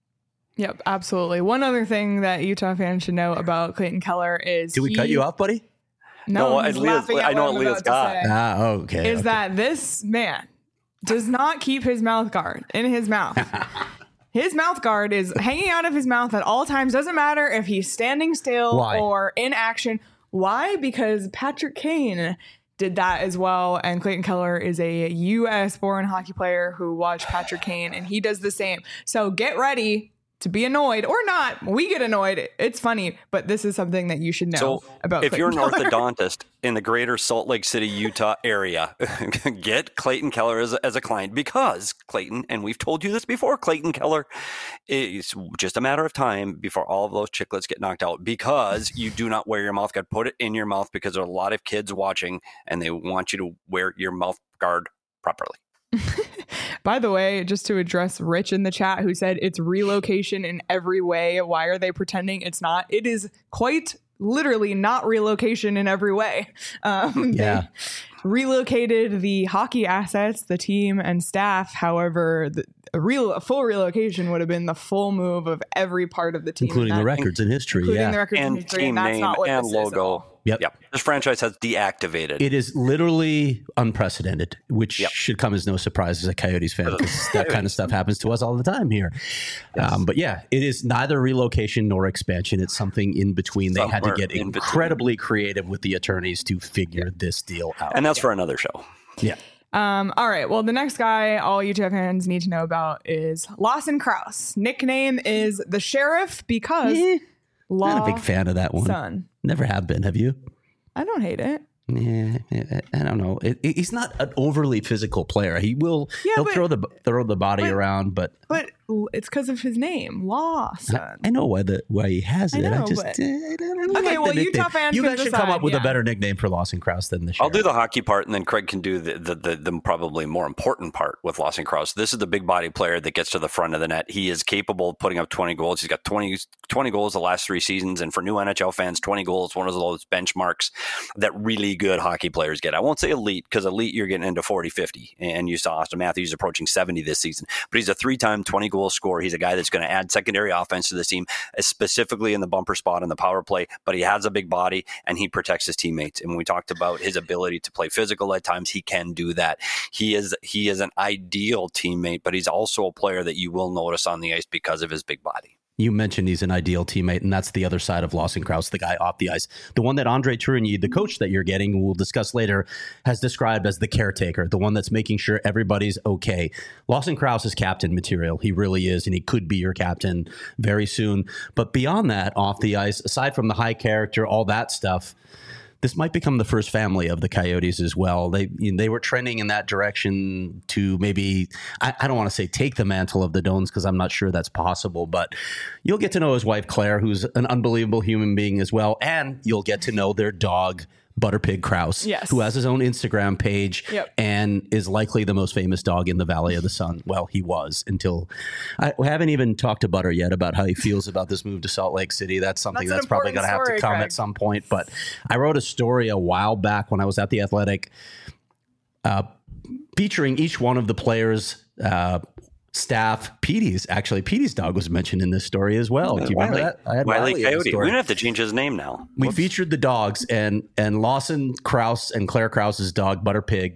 Yep, absolutely. One other thing that Utah fans should know about Clayton Keller is Did we he, cut you off, buddy? No, No, he's Leah's- laughing at I know what what I'm Leah's about to got. say. Ah, okay. Is okay. that this man does not keep his mouth guard in his mouth. His mouth guard is hanging out of his mouth at all times. Doesn't matter if he's standing still Why? or in action. Why? Because Patrick Kane did that as well. And Clayton Keller is a U S born hockey player who watched Patrick Kane, and he does the same. So get ready to be annoyed or not. We get annoyed. It's funny, but this is something that you should know So about if Clayton you're an Keller. orthodontist in the greater Salt Lake City, Utah area, get Clayton Keller as a, as a client, because Clayton, and we've told you this before, Clayton Keller is just a matter of time before all of those chiclets get knocked out, because you do not wear your mouth guard. Put it in your mouth, because there are a lot of kids watching and they want you to wear your mouth guard properly. By the way, just to address Rich in the chat who said it's relocation in every way. Why are they pretending it's not? It is quite literally not relocation in every way. Um, Yeah. They relocated the hockey assets, the team and staff. However, the, a real a full relocation would have been the full move of every part of the team, including that, the records in history, including yeah, the records and in history, team and that's name not what and this is at logo. all. Yep. Yep. This franchise has deactivated. It is literally unprecedented, which Yep. should come as no surprise as a Coyotes fan, because that kind of stuff happens to us all the time here. Yes. Um, but yeah, it is neither relocation nor expansion. It's something in between. They had to Somewhere get in between. incredibly creative with the attorneys to figure this deal out. and that's for another show. yeah. Um, all right. Well, the next guy all U T F fans need to know about is Lawson Krause. Nickname is the Sheriff because Eh, Law not a big fan of that one. Son. Never have been. Have you? I don't hate it. Yeah, I don't know. It, it, he's not an overly physical player. He will. Yeah, he'll but- throw the throw the body but- around, but But it's because of his name, Lawson. I know why the why he has I it. I, know, just but- eh, I don't Okay, like the well, nickname. Utah fans You can guys should come decide, up with yeah. a better nickname for Lawson Krause than the I'll Sheriff. do the hockey part, and then Craig can do the the, the, the probably more important part with Lawson Krause. This is the big body player that gets to the front of the net. He is capable of putting up twenty goals. He's got twenty, twenty goals the last three seasons, and for new N H L fans, twenty goals, one of those benchmarks that really good hockey players get. I won't say elite, because elite you're getting into forty, fifty, and you saw Austin Matthews approaching seventy this season. But he's a three-time twenty-goal scorer. He's a guy that's going to add secondary offense to this team, specifically in the bumper spot in the power play, but he has a big body and he protects his teammates. And when we talked about his ability to play physical at times, he can do that. He is he is an ideal teammate, but he's also a player that you will notice on the ice because of his big body. You mentioned he's an ideal teammate, and that's the other side of Lawson Krause, the guy off the ice. The one that Andre Tourigny, the coach that you're getting, we'll discuss later, has described as the caretaker, the one that's making sure everybody's okay. Lawson Krause is captain material. He really is, and he could be your captain very soon. But beyond that, off the ice, aside from the high character, all that stuff, this might become the first family of the Coyotes as well. They you know, they were trending in that direction to maybe, I, I don't want to say take the mantle of the Dones, because I'm not sure that's possible, but you'll get to know his wife, Claire, who's an unbelievable human being as well. And you'll get to know their dog, Butterpig Krause, Yes. who has his own Instagram page Yep. and is likely the most famous dog in the Valley of the Sun. Well, he was until I we haven't even talked to Butter yet about how he feels about this move to Salt Lake City. That's something That's an that's, probably going to have to important come story, at some point. But I wrote a story a while back when I was at The Athletic uh, featuring each one of the players' uh, staff. Petey's, actually, Petey's dog was mentioned in this story as well. Do you remember Wiley. that? I had Wiley Wiley in the Coyote. story. We don't have to change his name now. We Whoops. featured the dogs, and and Lawson Krause and Claire Krause's dog, Butterpig.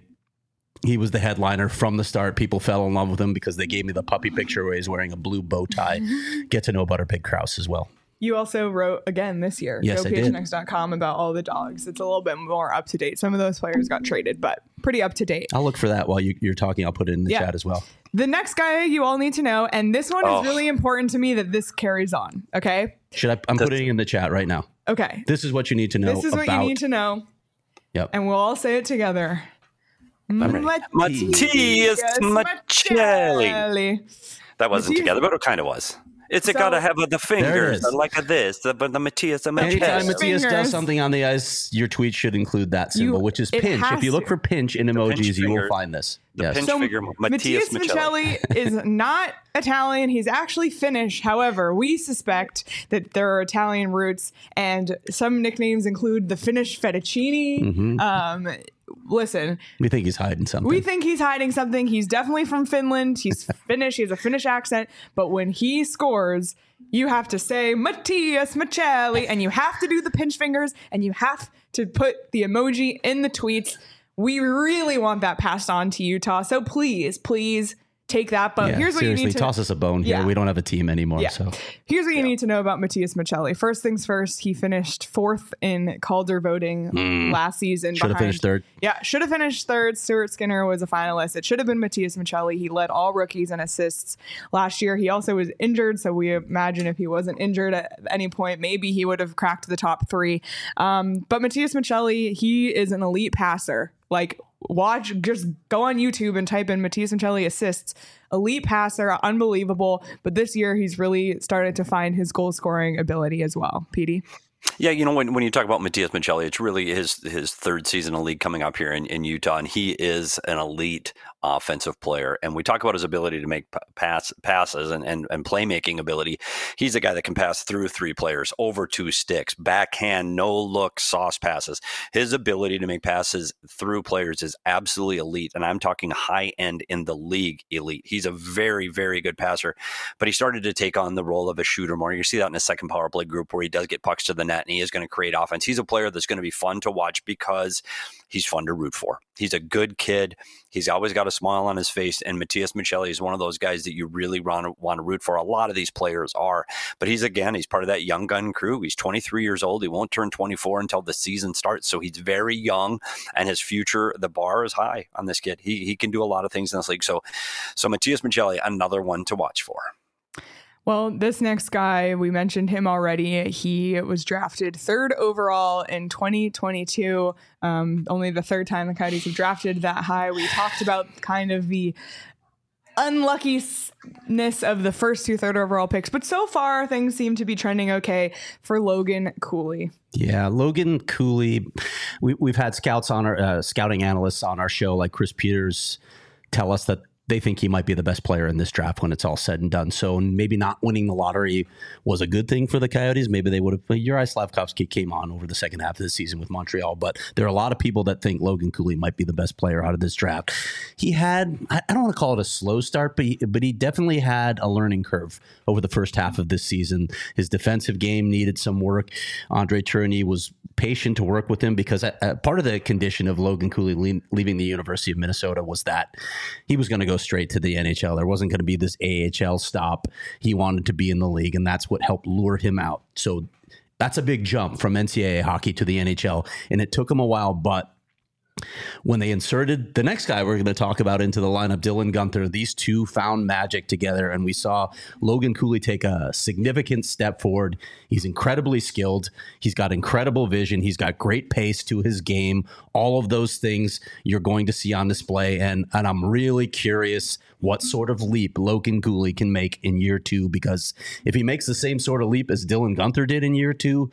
He was the headliner from the start. People fell in love with him because they gave me the puppy picture where he's wearing a blue bow tie. Get to know Butterpig Krause as well. You also wrote again this year, Yes, go I P H did. N X dot com, about all the dogs. It's a little bit more up to date. Some of those players got traded, but pretty up to date. I'll look for that while you, you're talking. I'll put it in the Yeah. chat as well. The next guy you all need to know, and this one Oh. is really important to me that this carries on. Okay. Should I? I'm putting it in the chat right now. Okay. This is what you need to know This is what about. you need to know, Yep. and we'll all say it together. ready. Mattias Maccelli. Maccelli. That wasn't Mattias- together, but it kind of was. It's So- got to have the fingers is. like this, but the Mattias Anytime Maccelli. Matthias does Fingers. something on the ice, your tweet should include that symbol, You- which is it pinch. has If you look to. for pinch in emojis, pinch you will finger. find this. The yes. pinch So figure, Mattias Mattias Maccelli. Maccelli is not Italian. He's actually Finnish. However, we suspect that there are Italian roots, and some nicknames include the Finnish fettuccine. Mm-hmm. Um, listen, We think he's hiding something. we think he's hiding something. He's definitely from Finland. He's Finnish. He has a Finnish accent. But when he scores, you have to say Mattias Maccelli, and you have to do the pinch fingers, and you have to put the emoji in the tweets. We really want that passed on to Utah. So please, please take that. But yeah, here's what you seriously, need to toss us a bone here. Yeah. We don't have a team anymore. Yeah. So Here's what you need to know about Mattias Maccelli. First things first, he finished fourth in Calder voting last season. should have behind- finished third. Yeah, should have finished third. Stuart Skinner was a finalist. It should have been Mattias Maccelli. He led all rookies in assists last year. He also was injured, so we imagine if he wasn't injured at any point, maybe he would have cracked the top three. Um, but Mattias Maccelli, he is an elite passer. Like, watch, just go on YouTube and type in Mattias Maccelli assists. Elite passer, unbelievable. But this year, he's really started to find his goal scoring ability as well. Petey? Yeah, you know, when, when you talk about Mattias Maccelli, it's really his his third season of league coming up here in, in Utah, and he is an elite offensive player. And we talk about his ability to make pass passes and, and, and playmaking ability. He's a guy that can pass through three players, over two sticks, backhand, no look, sauce passes. His ability to make passes through players is absolutely elite. And I'm talking high end in the league elite. He's a very, very good passer, but he started to take on the role of a shooter more. You see that in his second power play group where he does get pucks to the net and he is going to create offense. He's a player that's going to be fun to watch because he's fun to root for. He's a good kid. He's always got a smile on his face. And Matias Maccelli is one of those guys that you really want to, want to root for. A lot of these players are. But he's, again, he's part of that young gun crew. He's twenty-three years old. He won't turn twenty-four until the season starts. So he's very young. And his future, the bar is high on this kid. He he can do a lot of things in this league. So, so Matias Maccelli, another one to watch for. Well, this next guy, we mentioned him already. He was drafted third overall in twenty twenty-two. Um, only the third time the Coyotes have drafted that high. We talked about kind of the unluckiness of the first two third overall picks, but so far things seem to be trending okay for Logan Cooley. Yeah, Logan Cooley. We, we've had scouts on our uh, scouting analysts on our show, like Chris Peters, tell us that they think he might be the best player in this draft when it's all said and done. So maybe not winning the lottery was a good thing for the Coyotes. Maybe they would have. Uri Slavkovsky came on over the second half of the season with Montreal, but there are a lot of people that think Logan Cooley might be the best player out of this draft. He had, I don't want to call it a slow start, but he, but he definitely had a learning curve over the first half of this season. His defensive game needed some work. Andre Tourigny was patient to work with him because uh, part of the condition of Logan Cooley le- leaving the University of Minnesota was that he was going to go straight to the N H L. There wasn't going to be this A H L stop. He wanted to be in the league, and that's what helped lure him out. So that's a big jump from N C double A hockey to the N H L, and it took him a while, but when they inserted the next guy we're going to talk about into the lineup, Dylan Guenther, these two found magic together, and we saw Logan Cooley take a significant step forward. He's incredibly skilled. He's got incredible vision. He's got great pace to his game. All of those things you're going to see on display, and, and I'm really curious what sort of leap Logan Cooley can make in year two, because if he makes the same sort of leap as Dylan Guenther did in year two,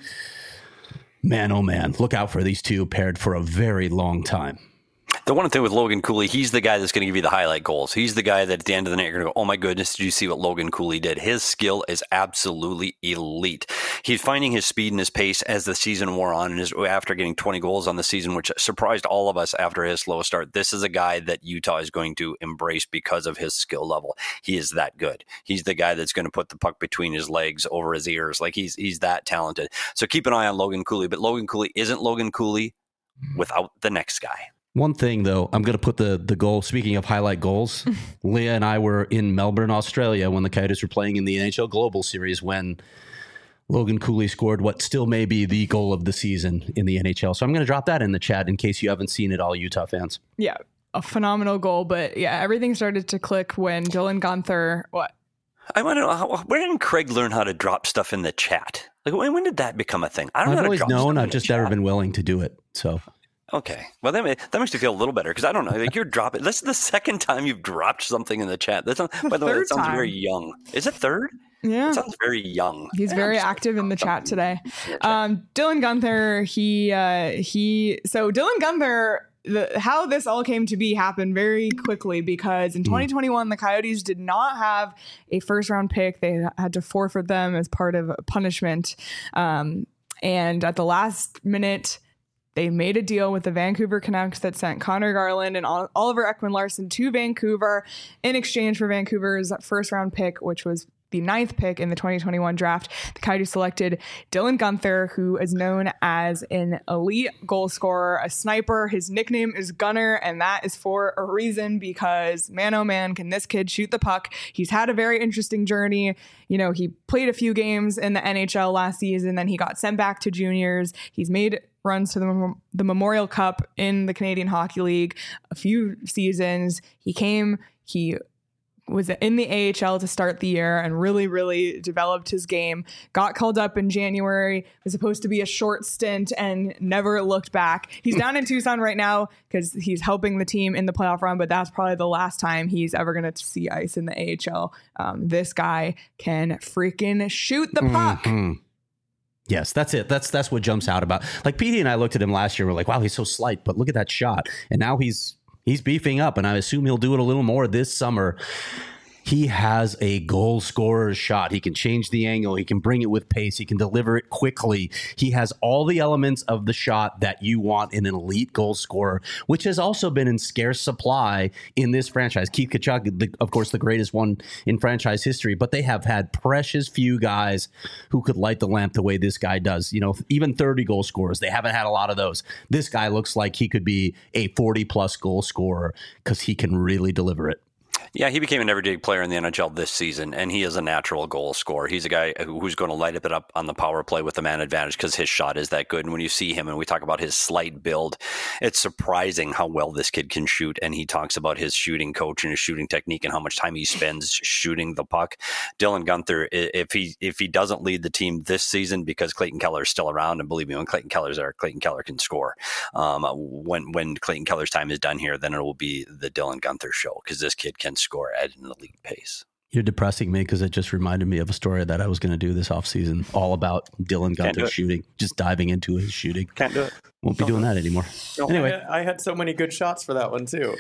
man, oh man, look out for these two paired for a very long time. The one thing with Logan Cooley, he's the guy that's going to give you the highlight goals. He's the guy that at the end of the night, you're going to go, oh my goodness, did you see what Logan Cooley did? His skill is absolutely elite. He's finding his speed and his pace as the season wore on, and his, after getting twenty goals on the season, which surprised all of us after his slow start. This is a guy that Utah is going to embrace because of his skill level. He is that good. He's the guy that's going to put the puck between his legs, over his ears. Like he's he's that talented. So keep an eye on Logan Cooley, but Logan Cooley isn't Logan Cooley without the next guy. One thing, though, I'm going to put the, the goal. Speaking of highlight goals, Leah and I were in Melbourne, Australia, when the Coyotes were playing in the N H L Global Series when Logan Cooley scored what still may be the goal of the season in the N H L. So I'm going to drop that in the chat in case you haven't seen it, all Utah fans. Yeah, a phenomenal goal. But yeah, everything started to click when Dylan Guenther, what? I want to know, how, where did Craig learn how to drop stuff in the chat? Like, when, when did that become a thing? I don't I've know. always known. I've just never been willing to do it. So. Okay. Well, that, may, that makes me feel a little better because I don't know. Like you're dropping. This is the second time you've dropped something in the chat. That's not, by the way, that sounds time. very young. Is it third? Yeah. It sounds very young. He's yeah, very active in the chat today. Um, Dylan Guenther, he, uh, he, so Dylan Guenther, the, how this all came to be happened very quickly because in twenty twenty-one, the Coyotes did not have a first round pick. They had to forfeit them as part of a punishment. Um, and at the last minute, they made a deal with the Vancouver Canucks that sent Connor Garland and Oliver Ekman-Larsson to Vancouver in exchange for Vancouver's first round pick, which was the ninth pick in the twenty twenty-one draft. The Coyotes selected Dylan Guenther, who is known as an elite goal scorer, a sniper. His nickname is Gunner, and that is for a reason because, man, oh man, can this kid shoot the puck. He's had a very interesting journey. You know, he played a few games in the N H L last season, then he got sent back to juniors. He's made runs to the, the Memorial Cup in the Canadian Hockey League a few seasons. He came, he was in the A H L to start the year and really, really developed his game. Got called up in January, was supposed to be a short stint and never looked back. He's down in Tucson right now because he's helping the team in the playoff run, but that's probably the last time he's ever going to see ice in the A H L. Um, this guy can freaking shoot the puck. Mm-hmm. Yes, that's it. That's that's what jumps out about. Like Petey and I looked at him last year. We're like, wow, he's so slight, but look at that shot. And now he's He's beefing up, and I assume he'll do it a little more this summer. He has a goal scorer's shot. He can change the angle. He can bring it with pace. He can deliver it quickly. He has all the elements of the shot that you want in an elite goal scorer, which has also been in scarce supply in this franchise. Keith Tkachuk, the, of course, the greatest one in franchise history, but they have had precious few guys who could light the lamp the way this guy does. You know, even thirty goal scorers, they haven't had a lot of those. This guy looks like he could be a forty-plus goal scorer because he can really deliver it. Yeah, he became an everyday player in the N H L this season, and he is a natural goal scorer. He's a guy who's going to light it up on the power play with the man advantage because his shot is that good. And when you see him, and we talk about his slight build, it's surprising how well this kid can shoot. And he talks about his shooting coach and his shooting technique and how much time he spends shooting the puck. Dylan Guenther, if he if he doesn't lead the team this season because Clayton Keller is still around, and believe me, when Clayton Keller's there, Clayton Keller can score. Um, when when Clayton Keller's time is done here, then it will be the Dylan Guenther show because this kid can score at an elite pace. You're depressing me because it just reminded me of a story that I was going to do this offseason, all about Dylan Guenther shooting, just diving into his shooting. Can't do it. Won't be doing that anymore. No, anyway, I had, I had so many good shots for that one too.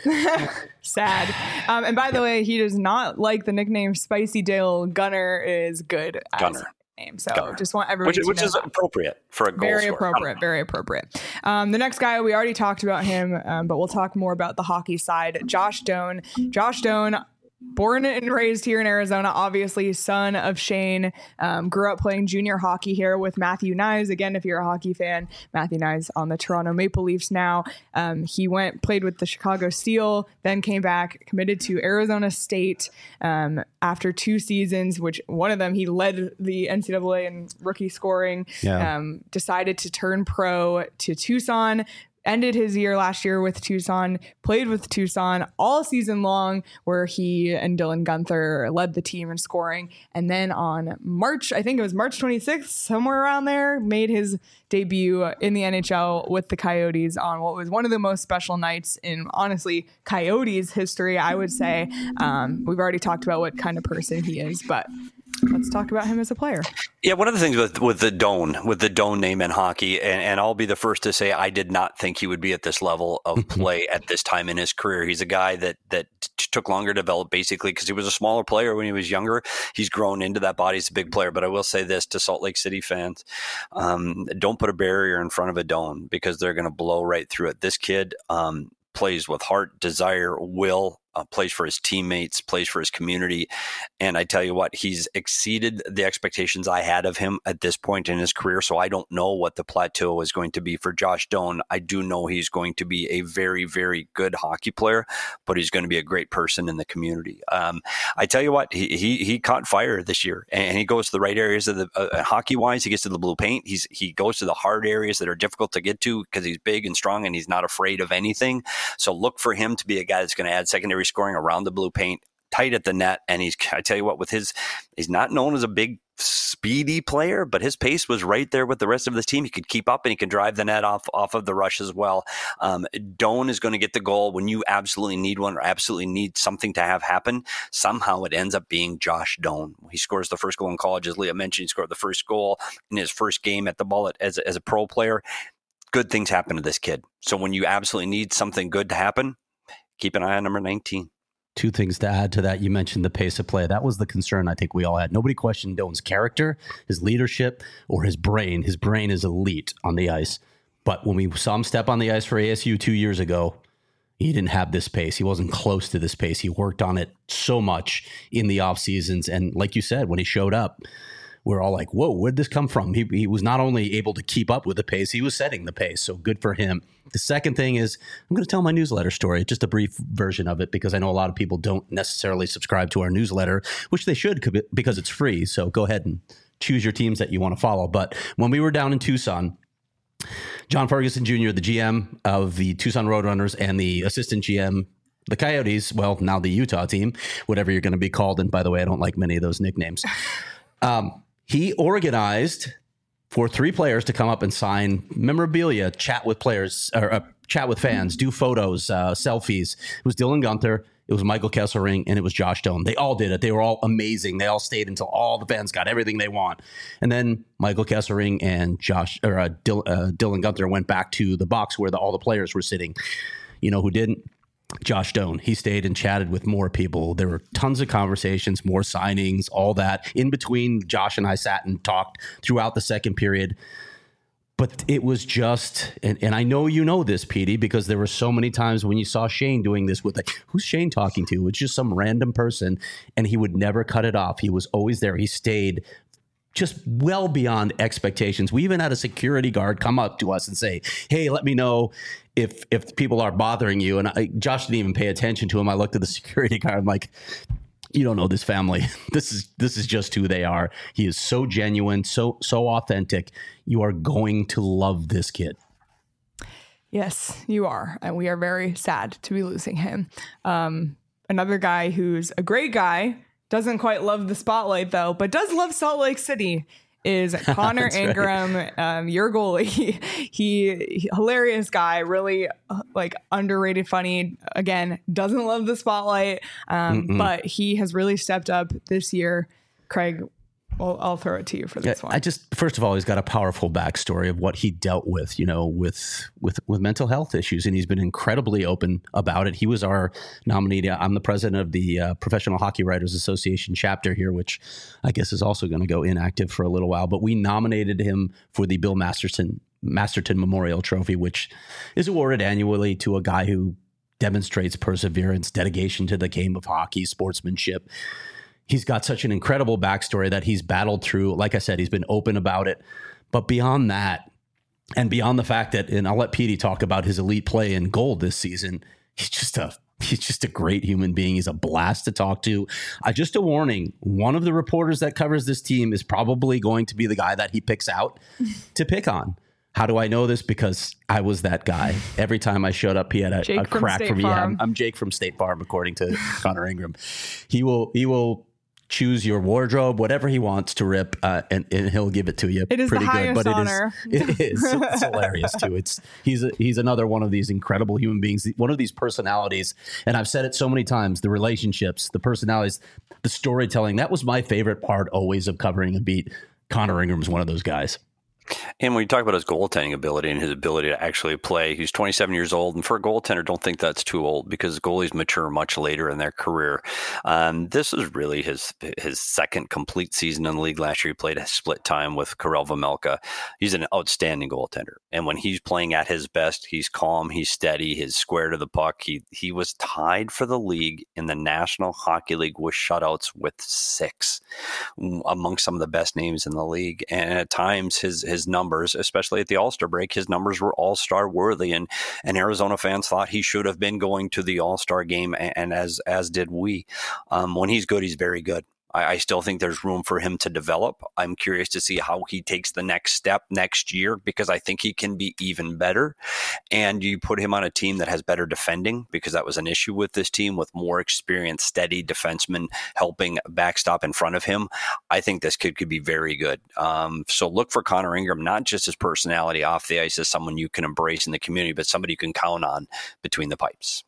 Sad. Um, and by the way, he does not like the nickname Spicy Dale. Gunner is good as Gunner. Name. So Gunner. Just want everybody which, to which know is that. appropriate for a goal Very scorer. appropriate, very appropriate. Um, the next guy, we already talked about him, um, but we'll talk more about the hockey side. Josh Doan. Josh Doan, born and raised here in Arizona, obviously son of Shane, um, grew up playing junior hockey here with Matthew Knies. Again, if you're a hockey fan, Matthew Knies on the Toronto Maple Leafs now. Um, he went, played with the Chicago Steel, then came back, committed to Arizona State um, after two seasons, which one of them, he led the N C double A in rookie scoring, Yeah. um, decided to turn pro to Tucson, ended his year last year with Tucson, played with Tucson all season long, where he and Dylan Guenther led the team in scoring. And then on March, I think it was March twenty-sixth, somewhere around there, made his debut in the N H L with the Coyotes on what was one of the most special nights in, honestly, Coyotes history, I would say. Um, we've already talked about what kind of person he is, but let's talk about him as a player. Yeah, one of the things with with the Doan, with the Doan name in hockey, and, and I'll be the first to say I did not think he would be at this level of play at this time in his career. He's a guy that that t- took longer to develop, basically, because he was a smaller player when he was younger. He's grown into that body. He's a big player. But I will say this to Salt Lake City fans, um, don't put a barrier in front of a Doan because they're going to blow right through it. This kid um, plays with heart, desire, will, Uh, plays for his teammates, plays for his community. And I tell you what, he's exceeded the expectations I had of him at this point in his career. So I don't know what the plateau is going to be for Josh Doan. I do know he's going to be a very, very good hockey player, but he's going to be a great person in the community. Um, I tell you what, he, he he caught fire this year, and he goes to the right areas of the uh, hockey-wise. He gets to the blue paint. He's He goes to the hard areas that are difficult to get to because he's big and strong, and he's not afraid of anything. So look for him to be a guy that's going to add secondary scoring around the blue paint, tight at the net. And he's, I tell you what, with his, he's not known as a big speedy player, but his pace was right there with the rest of the team. He could keep up and he could drive the net off, off of the rush as well. Um, Doan is going to get the goal when you absolutely need one or absolutely need something to have happen. Somehow it ends up being Josh Doan. He scores the first goal in college, as Leah mentioned. He scored the first goal in his first game at the Bullet as, as a pro player. Good things happen to this kid. So when you absolutely need something good to happen, keep an eye on number nineteen. Two things to add to that. You mentioned the pace of play. That was the concern I think we all had. Nobody questioned Doan's character, his leadership, or his brain. His brain is elite on the ice. But when we saw him step on the ice for A S U two years ago, he didn't have this pace. He wasn't close to this pace. He worked on it so much in the off seasons. And like you said, when he showed up, we're all like, whoa, where'd this come from? He, he was not only able to keep up with the pace, he was setting the pace. So good for him. The second thing is I'm going to tell my newsletter story, just a brief version of it, because I know a lot of people don't necessarily subscribe to our newsletter, which they should because it's free. So go ahead and choose your teams that you want to follow. But when we were down in Tucson, John Ferguson Junior, the G M of the Tucson Roadrunners and the assistant G M, the Coyotes, well, now the Utah team, whatever you're going to be called. And by the way, I don't like many of those nicknames. Um, he organized for three players to come up and sign memorabilia, chat with players, or uh, chat with fans, do photos, uh, selfies. It was Dylan Guenther, it was Michael Kesselring, and it was Josh Doan. They all did it. They were all amazing. They all stayed until all the fans got everything they want. And then Michael Kesselring and Josh or uh, Dil, uh, Dylan Guenther went back to the box where the, all the players were sitting. You know who didn't? Josh Doan. He stayed and chatted with more people. There were tons of conversations, more signings, all that. In between, Josh and I sat and talked throughout the second period. But it was just, and, and I know you know this, Petey, because there were so many times when you saw Shane doing this with, like, who's Shane talking to? It's just some random person, and he would never cut it off. He was always there. He stayed just well beyond expectations. We even had a security guard come up to us and say, hey, let me know if if people are bothering you. And I, Josh didn't even pay attention to him. I looked at the security guard. I'm like, you don't know this family. This is this is just who they are. He is so genuine, so so authentic. You are going to love this kid. Yes, you are. And we are very sad to be losing him. Um, another guy who's a great guy, doesn't quite love the spotlight, though, but does love Salt Lake City, is Connor Ingram, right. um, your goalie. He, he, hilarious guy, really uh, like underrated, funny. Again, doesn't love the spotlight, um, but he has really stepped up this year. Craig, well, I'll throw it to you for this yeah, one. I just, first of all, he's got a powerful backstory of what he dealt with, you know, with with with mental health issues, and he's been incredibly open about it. He was our nominee. I'm the president of the uh, Professional Hockey Writers Association chapter here, which I guess is also going to go inactive for a little while. But we nominated him for the Bill Masterton Masterton Memorial Trophy, which is awarded annually to a guy who demonstrates perseverance, dedication to the game of hockey, sportsmanship. He's got such an incredible backstory that he's battled through. Like I said, he's been open about it. But beyond that, and beyond the fact that, and I'll let Petey talk about his elite play in goal this season, he's just a he's just a great human being. He's a blast to talk to. Uh, just a warning, one of the reporters that covers this team is probably going to be the guy that he picks out to pick on. How do I know this? Because I was that guy. Every time I showed up, he had a, a crack for me. Yeah, I'm, I'm Jake from State Farm, according to Connor Ingram. He will he will choose your wardrobe, whatever he wants to rip, uh, and, and he'll give it to you. It is pretty the highest good, but honor. It is, it is. It's hilarious too. It's he's a, he's another one of these incredible human beings, one of these personalities. And I've said it so many times: the relationships, the personalities, the storytelling. That was my favorite part always of covering a beat. Connor Ingram's one of those guys. And when you talk about his goaltending ability and his ability to actually play, he's twenty-seven years old. And for a goaltender, don't think that's too old because goalies mature much later in their career. Um, this is really his his second complete season in the league. Last year, he played a split time with Karel Vejmelka. He's an outstanding goaltender. And when he's playing at his best, he's calm, he's steady, he's square to the puck. He, he was tied for the league in the National Hockey League with shutouts with six among some of the best names in the league. And at times, his his numbers, especially at the All-Star break, his numbers were All-Star worthy, and and Arizona fans thought he should have been going to the All-Star game, and, and as as did we. Um, when he's good, he's very good. I, I still think there's room for him to develop. I'm curious to see how he takes the next step next year because I think he can be even better. And you put him on a team that has better defending because that was an issue with this team with more experienced, steady defensemen helping backstop in front of him. I think this kid could be very good. Um, so look for Connor Ingram, not just his personality off the ice as someone you can embrace in the community, but somebody you can count on between the pipes.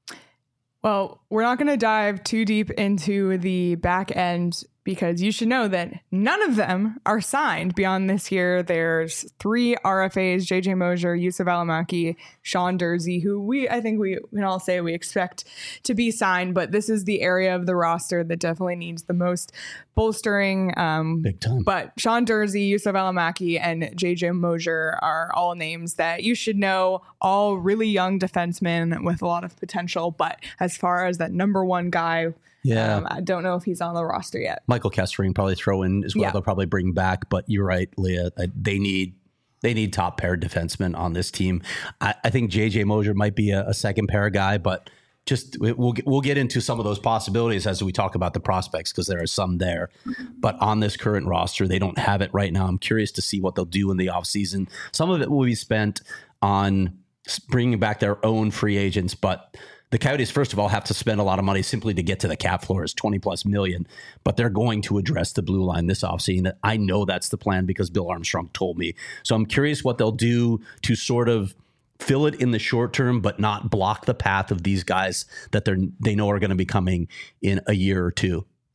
Well, we're not going to dive too deep into the back end because you should know that none of them are signed beyond this year. There's three R F As, J J Mosier, Yusuf Alamaki, Sean Durzi, who we, I think we can all say we expect to be signed, but this is the area of the roster that definitely needs the most bolstering. Um, Big time. But Sean Durzi, Yusuf Alamaki, and J J Mosier are all names that you should know, all really young defensemen with a lot of potential. But as far as that number one guy, Yeah, um, I don't know if he's on the roster yet. Michael Kessering probably throw in as well. Yeah. They'll probably bring back, but you're right, Leah. They need they need top pair defensemen on this team. I, I think J J Mosier might be a, a second pair guy, but just we'll we'll get into some of those possibilities as we talk about the prospects because there are some there. But on this current roster, they don't have it right now. I'm curious to see what they'll do in the offseason. Some of it will be spent on bringing back their own free agents, but the Coyotes, first of all, have to spend a lot of money simply to get to the cap floor. It's twenty plus million, but they're going to address the blue line this offseason. I know that's the plan because Bill Armstrong told me. So I'm curious what they'll do to sort of fill it in the short term, but not block the path of these guys that they're they know are going to be coming in a year or two.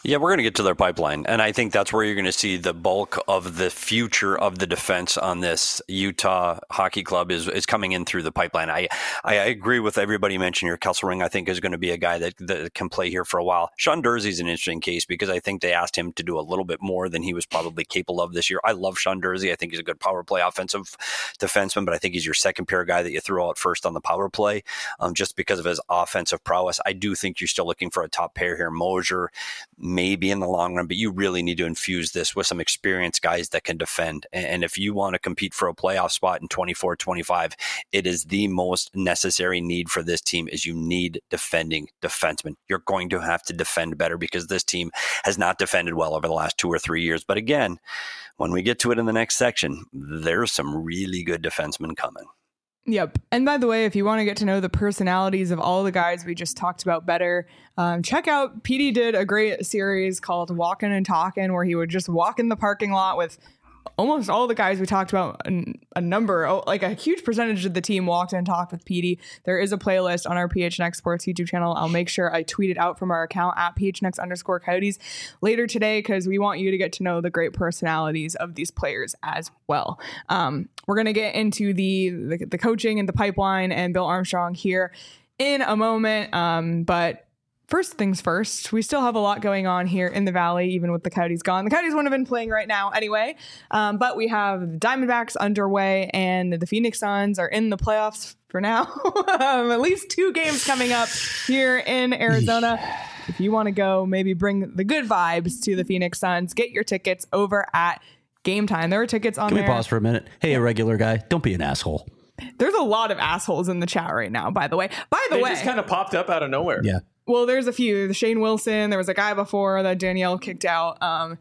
Yeah, we're going to get to their pipeline, and I think that's where you're going to see the bulk of the future of the defense on this Utah Hockey Club is is coming in through the pipeline. I I agree with everybody mentioned here. Kesselring, I think, is going to be a guy that, that can play here for a while. Sean Durzi is an interesting case because I think they asked him to do a little bit more than he was probably capable of this year. I love Sean Durzi. I think he's a good power play offensive defenseman, but I think he's your second pair guy that you throw out first on the power play um, just because of his offensive prowess. I do think you're still looking for a top pair here. Mosier, maybe in the long run, but you really need to infuse this with some experienced guys that can defend. And if you want to compete for a playoff spot in twenty-four twenty-five, it is the most necessary need for this team is you need defending defensemen. You're going to have to defend better because this team has not defended well over the last two or three years. But again, when we get to it in the next section, there's some really good defensemen coming. Yep. And by the way, if you want to get to know the personalities of all the guys we just talked about better, um, check out P D did a great series called Walking and Talking, where he would just walk in the parking lot with almost all the guys we talked about. A number, like a huge percentage of the team walked and talked with P D. There is a playlist on our P H N X Sports YouTube channel. I'll make sure I tweet it out from our account at P H N X underscore Coyotes later today because we want you to get to know the great personalities of these players as well. Um, we're going to get into the, the the coaching and the pipeline and Bill Armstrong here in a moment. Um, but First things first, we still have a lot going on here in the Valley, even with the Coyotes gone. The Coyotes wouldn't have been playing right now anyway, um, but we have the Diamondbacks underway and the Phoenix Suns are in the playoffs for now. um, at least two games coming up here in Arizona. If you want to go, maybe bring the good vibes to the Phoenix Suns, get your tickets over at Game Time. There are tickets on Can there. we pause for a minute? Hey, a regular guy, don't be an asshole. There's a lot of assholes in the chat right now, by the way. By the They way, just kind of popped up out of nowhere. Yeah. Well, there's a few. Shane Wilson. There was a guy before that Danielle kicked out. Um,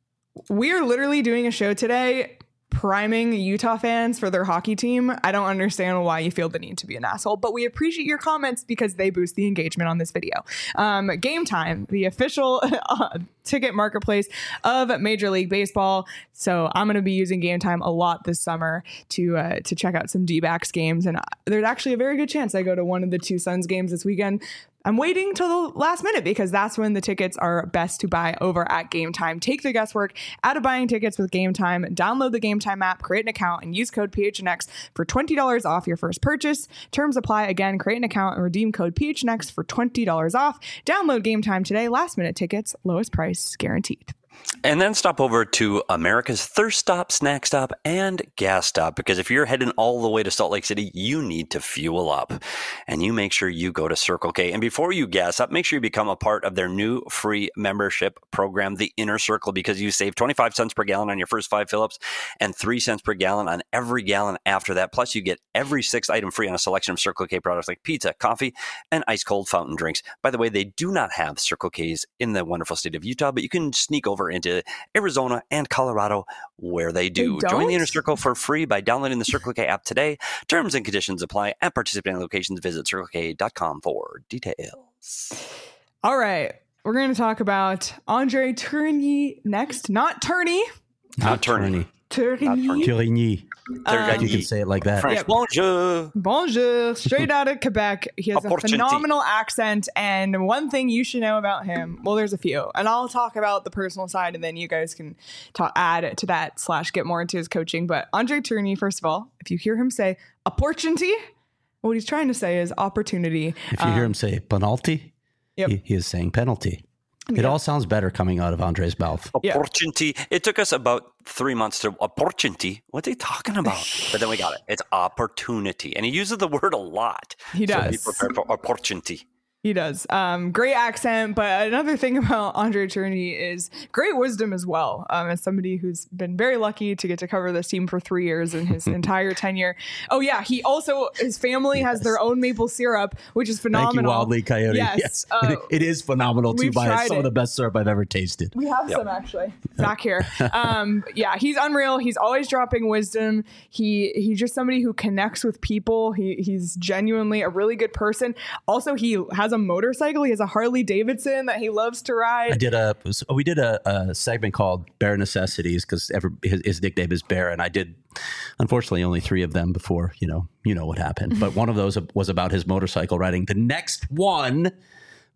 we're literally doing a show today priming Utah fans for their hockey team. I don't understand why you feel the need to be an asshole, but we appreciate your comments because they boost the engagement on this video. Um, Game Time, the official uh, ticket marketplace of Major League Baseball. So I'm going to be using Game Time a lot this summer to uh, to check out some D-backs games. And there's actually a very good chance I go to one of the two Suns games this weekend. I'm waiting till the last minute because that's when the tickets are best to buy over at Game Time. Take the guesswork out of buying tickets with Game Time. Download the Game Time app, create an account, and use code P H N X for twenty dollars off your first purchase. Terms apply. Again, create an account and redeem code P H N X for twenty dollars off. Download Game Time today. Last minute tickets, lowest price guaranteed. And then stop over to America's Thirst Stop, Snack Stop, and Gas Stop. Because if you're heading all the way to Salt Lake City, you need to fuel up. And you make sure you go to Circle K. And before you gas up, make sure you become a part of their new free membership program, The Inner Circle, because you save twenty-five cents per gallon on your first five fill-ups and three cents per gallon on every gallon after that. Plus, you get every sixth item free on a selection of Circle K products like pizza, coffee, and ice-cold fountain drinks. By the way, they do not have Circle Ks in the wonderful state of Utah, but you can sneak over into Arizona and Colorado where they do. They Join the don't? Inner Circle for free by downloading the Circle K app today. Terms and conditions apply at participating locations. Visit circle k dot com for details. All right. We're going to talk about Andre Tourigny next. Not Tourney. Not Tourney. Tourigny. Tourigny. Um, You can say it like that. French. Yep. Bonjour. Bonjour, straight out of Quebec. He has a Opportunity. phenomenal accent, and one thing you should know about him, well, there's a few, and I'll talk about the personal side, and then you guys can talk, add to that slash get more into his coaching. But Andre Tourigny, first of all, if you hear him say opportunity, what he's trying to say is opportunity. If you hear him say penalty, Yep. he, he is saying penalty. It all sounds better coming out of Andre's mouth. Yeah. Opportunity. It took us about three months to opportunity. What are they talking about? But then we got it. It's opportunity. And he uses the word a lot. He So does. be prepared for opportunity. He does. Um, great accent, but another thing about Andre Tourigny is great wisdom as well. Um, as somebody who's been very lucky to get to cover this team for three years in his entire tenure. Oh yeah, he also his family has their own maple syrup, which is phenomenal. Thank you, Wildly Coyote. Yes, Yes, uh, it, it is phenomenal too. we've By tried some it. of the best syrup I've ever tasted. We have some actually back here. Um, yeah, he's unreal. He's always dropping wisdom. He he's just somebody who connects with people. He he's genuinely a really good person. Also, he has a motorcycle. He has a Harley Davidson that he loves to ride. I did a we did a, a segment called Bear Necessities because his, his nickname is Bear, and I did unfortunately only three of them before you know you know what happened. But one of those was about his motorcycle riding. The next one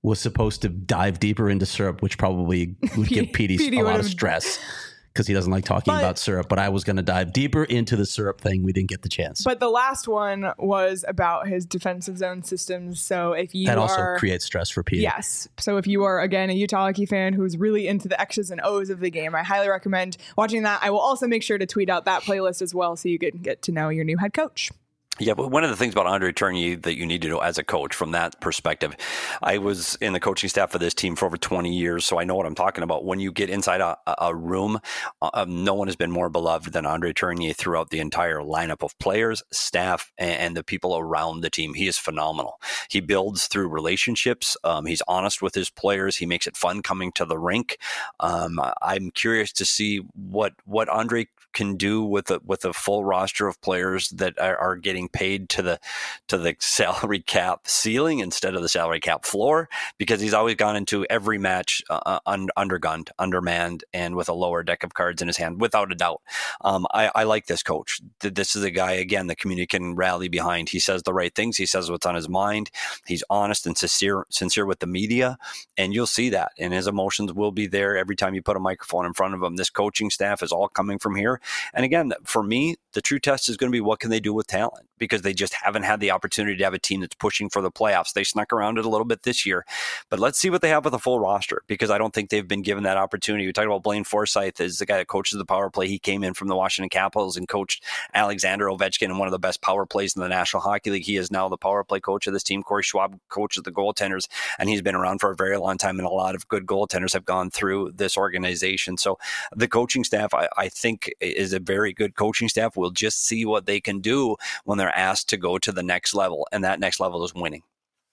was supposed to dive deeper into syrup, which probably would give Petey, Petey a lot of would've- stress because he doesn't like talking But- about syrup. But I was going to dive deeper into the syrup thing. We didn't get the chance. But the last one was about his defensive zone systems. So if you that also are, creates stress for Petey. yes. So if you are, again, a Utah hockey fan who's really into the X's and O's of the game, I highly recommend watching that. I will also make sure to tweet out that playlist as well so you can get to know your new head coach. Yeah, but one of the things about Andre Tourigny that you need to know as a coach from that perspective, I was in the coaching staff for this team for over twenty years, so I know what I'm talking about. When you get inside a, a room, uh, no one has been more beloved than Andre Tourigny throughout the entire lineup of players, staff, and, and the people around the team. He is phenomenal. He builds through relationships. Um, he's honest with his players. He makes it fun coming to the rink. Um, I'm curious to see what what Andre can do with a with a full roster of players that are, are getting paid to the to the salary cap ceiling instead of the salary cap floor, because he's always gone into every match uh, un, undergunned, undermanned, and with a lower deck of cards in his hand, without a doubt. Um, I, I like this coach. This is a guy, again, the community can rally behind. He says the right things. He says what's on his mind. He's honest and sincere, sincere with the media, and you'll see that. And his emotions will be there every time you put a microphone in front of him. This coaching staff is all coming from here. And again, for me, the true test is going to be what can they do with talent, because they just haven't had the opportunity to have a team that's pushing for the playoffs. They snuck around it a little bit this year, but let's see what they have with a full roster, because I don't think they've been given that opportunity. We talked about Blaine Forsythe as the guy that coaches the power play. He came in from the Washington Capitals and coached Alexander Ovechkin in one of the best power plays in the National Hockey League. He is now the power play coach of this team. Corey Schwab coaches the goaltenders, and he's been around for a very long time, and a lot of good goaltenders have gone through this organization. So the coaching staff, I, I think, is a very good coaching staff. We'll just see what they can do when they're asked to go to the next level, and that next level is winning.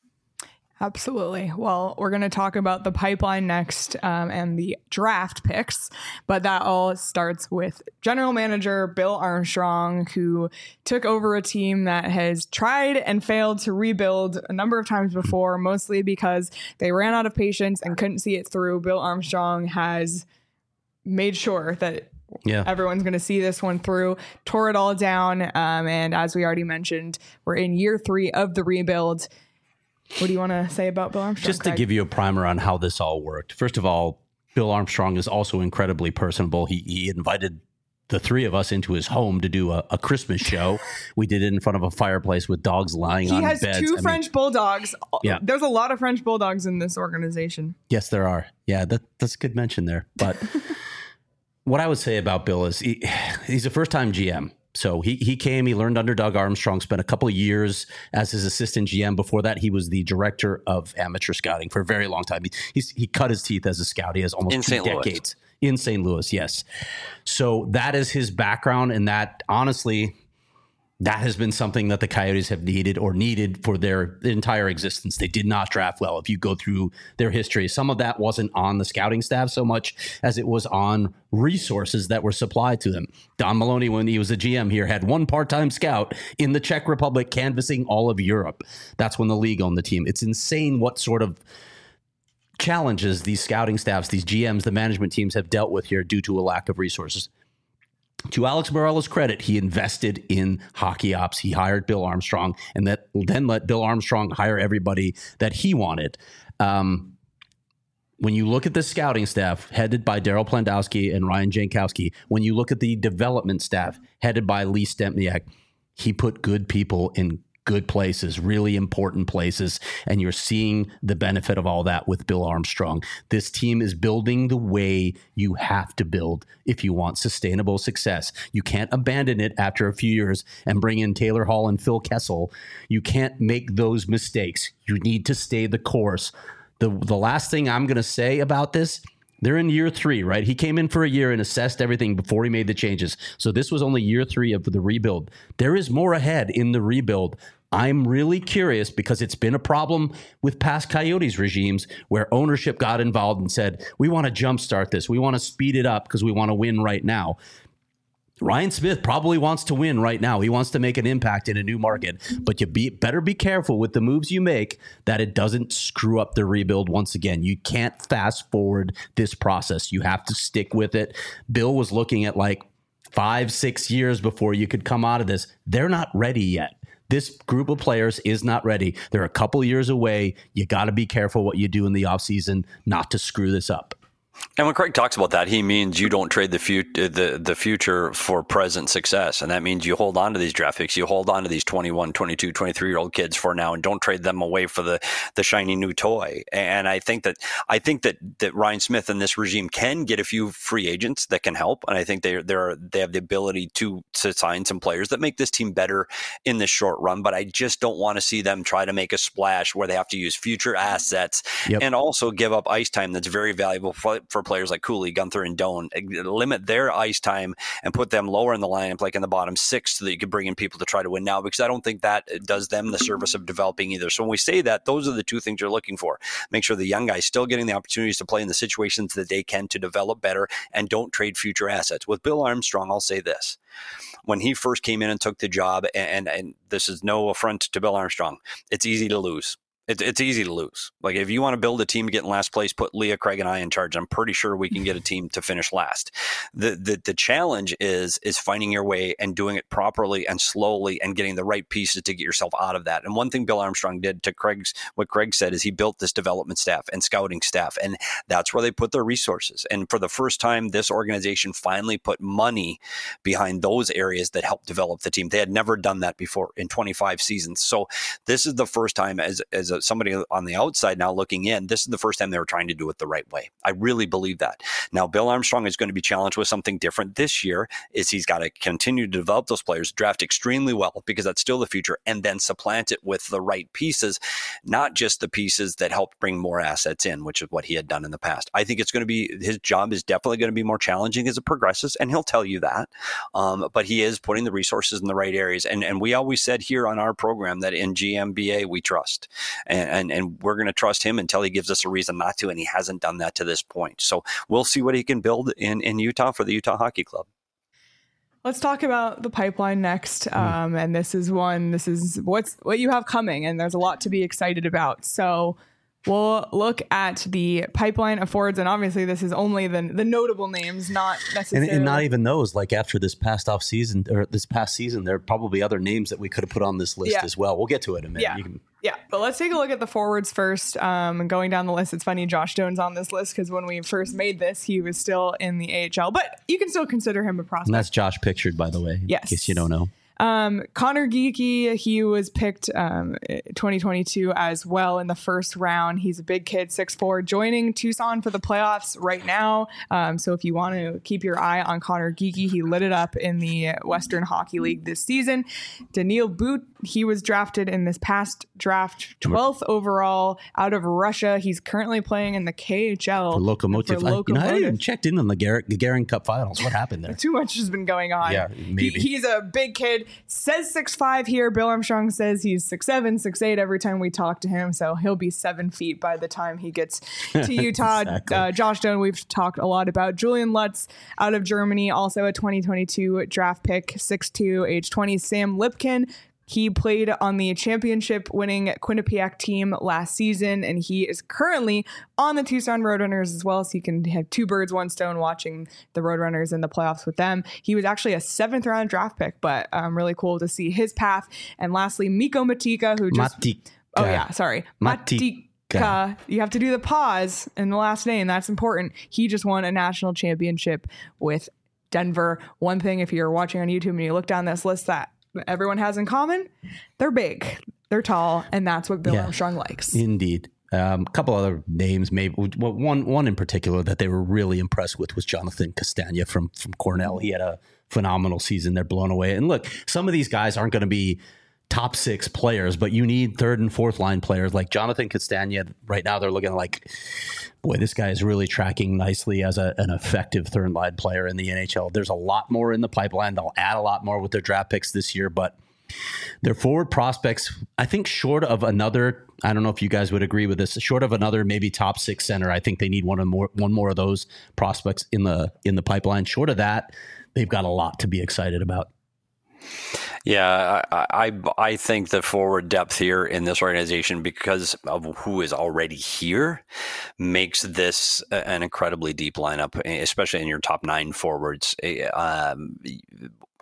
Absolutely. Well, we're going to talk about the pipeline next um, and the draft picks, but that all starts with general manager Bill Armstrong, who took over a team that has tried and failed to rebuild a number of times before, mostly because they ran out of patience and couldn't see it through. Bill Armstrong has made sure that Yeah. everyone's going to see this one through, tore it all down. Um, and as we already mentioned, we're in year three of the rebuild. What do you want to say about Bill Armstrong? Just to Craig? give you a primer on how this all worked. First of all, Bill Armstrong is also incredibly personable. He, he invited the three of us into his home to do a, a Christmas show. We did it in front of a fireplace with dogs lying He on has beds. two I mean, French bulldogs. Yeah. There's a lot of French bulldogs in this organization. yes, there are. Yeah, that, that's a good mention there. But what I would say about Bill is he, he's a first-time G M. So he he came, he learned under Doug Armstrong, spent a couple of years as his assistant G M. Before that, he was the director of amateur scouting for a very long time. He he's, he cut his teeth as a scout. He has almost In two Saint Louis. decades in Saint Louis. Yes. So that is his background, and that honestly, that has been something that the Coyotes have needed or needed for their entire existence. They did not draft well. If you go through their history, some of that wasn't on the scouting staff so much as it was on resources that were supplied to them. Don Maloney, when he was a G M here, had one part-time scout in the Czech Republic canvassing all of Europe. That's when the league owned the team. It's insane what sort of challenges these scouting staffs, these G Ms, the management teams have dealt with here due to a lack of resources. To Alex Morella's credit, he invested in hockey ops. He hired Bill Armstrong, and that then let Bill Armstrong hire everybody that he wanted. Um, when you look at the scouting staff headed by Daryl Plandowski and Ryan Jankowski, when you look at the development staff headed by Lee Stempniak, he put good people in good places, really important places, and you're seeing the benefit of all that with Bill Armstrong. This team is building the way you have to build if you want sustainable success. You can't abandon it after a few years and bring in Taylor Hall and Phil Kessel. You can't make those mistakes. You need to stay the course. The, the last thing I'm going to say about this, they're in year three, right? He came in for a year and assessed everything before he made the changes. So this was only year three of the rebuild. There is more ahead in the rebuild. I'm really curious because it's been a problem with past Coyotes regimes where ownership got involved and said, we want to jumpstart this. We want to speed it up because we want to win right now. Ryan Smith probably wants to win right now. He wants to make an impact in a new market, but you be, better be careful with the moves you make that it doesn't screw up the rebuild once again. You can't fast forward this process. You have to stick with it. Bill was looking at like five, six years before you could come out of this. They're not ready yet. this group of players is not ready. They're a couple years away. You got to be careful what you do in the offseason not to screw this up. And when Craig talks about that, he means you don't trade the, fut- the the future for present success. And that means you hold on to these draft picks. You hold on to these twenty-one, twenty-two, twenty-three-year-old kids for now and don't trade them away for the, the shiny new toy. And I think that I think that, that Ryan Smith and this regime can get a few free agents that can help. And I think they they're, they have the ability to, to sign some players that make this team better in the short run. But I just don't want to see them try to make a splash where they have to use future assets yep. and also give up ice time that's very valuable for, for players like Cooley, Gunther, and Doan. Limit their ice time and put them lower in the lineup, like in the bottom six, so that you can bring in people to try to win now, because I don't think that does them the service of developing either. So when we say that, those are the two things you're looking for. Make sure the young guys still getting the opportunities to play in the situations that they can to develop better, and don't trade future assets. With Bill Armstrong, I'll say this. When he first came in and took the job, and, and this is no affront to Bill Armstrong, it's easy to lose. It, it's easy to lose. Like, if you want to build a team to get in last place, put Leah, Craig, and I in charge. I'm pretty sure we can get a team to finish last. The the the challenge is is finding your way and doing it properly and slowly and getting the right pieces to get yourself out of that. And one thing Bill Armstrong did to Craig's, what Craig said, is he built this development staff and scouting staff, and that's where they put their resources. And for the first time, this organization finally put money behind those areas that helped develop the team. They had never done that before in twenty-five seasons. So this is the first time, as as a somebody on the outside now looking in, this is the first time they were trying to do it the right way. I really believe that. Now, Bill Armstrong is going to be challenged with something different this year. Is he's got to continue to develop those players, draft extremely well, because that's still the future, and then supplant it with the right pieces, not just the pieces that helped bring more assets in, which is what he had done in the past. I think it's going to be, his job is definitely going to be more challenging as it progresses, and he'll tell you that. Um, but he is putting the resources in the right areas. And, and we always said here on our program that in G M B A, we trust. And, and, and we're going to trust him until he gives us a reason not to, and he hasn't done that to this point. So we'll see what he can build in, in Utah for the Utah Hockey Club. Let's talk about the pipeline next. Um, and this is one, this is what's what you have coming, and there's a lot to be excited about. So we'll look at the pipeline of forwards, and obviously this is only the the notable names, not necessarily. And, and not even those, like after this past off season, or this past season, there are probably other names that we could have put on this list yeah. as well. We'll get to it in a minute. Yeah. You can... Yeah, but let's take a look at the forwards first. Um, going down the list, it's funny, Josh Doan's on this list because when we first made this, he was still in the A H L, but you can still consider him a prospect. And that's Josh pictured, by the way, yes. in case you don't know. Um, Connor Geekie, he was picked um, twenty twenty-two as well in the first round. He's a big kid, six foot four, joining Tucson for the playoffs right now. Um, so if you want to keep your eye on Connor Geekie, he lit it up in the Western Hockey League this season. Daniil But, he was drafted in this past draft, twelfth overall out of Russia. He's currently playing in the K H L. For Lokomotiv. For I, Lokomotiv. You know, I haven't even checked in on the Gar- Gagarin Cup finals. What happened there? Too much has been going on. Yeah, maybe. He, he's a big kid. Says six five here. Bill Armstrong says he's six seven, six eight every time we talk to him. So he'll be seven feet by the time he gets to Utah. Exactly. uh, Josh Doan, we've talked a lot about. Julian Lutz out of Germany, also a twenty twenty-two draft pick, six two, age twenty. Sam Lipkin. He played on the championship-winning Quinnipiac team last season, and he is currently on the Tucson Roadrunners as well, so you can have two birds, one stone watching the Roadrunners in the playoffs with them. He was actually a seventh-round draft pick, but um, really cool to see his path. And lastly, Mikko Matika, who just... Matika. Oh, yeah, sorry. Matika. Matika. You have to do the pause in the last name. That's important. He just won a national championship with Denver. One thing, if you're watching on YouTube and you look down this list that everyone has in common, they're big, they're tall, and that's what Bill yeah, Armstrong likes. Indeed. A um, couple other names, maybe well, one one in particular that they were really impressed with was Jonathan Castagna from from Cornell. He had a phenomenal season. They're blown away. And look, some of these guys aren't going to be top six players, but you need third and fourth line players like Jonathan Castagna. Right now, they're looking like, boy, this guy is really tracking nicely as a, an effective third line player in the N H L. There's a lot more in the pipeline. They'll add a lot more with their draft picks this year, but their forward prospects, I think short of another, I don't know if you guys would agree with this, short of another maybe top six center, I think they need one or more, one more of those prospects in the in the pipeline. Short of that, they've got a lot to be excited about. Yeah, I, I I think the forward depth here in this organization, because of who is already here, makes this an incredibly deep lineup, especially in your top nine forwards. Um,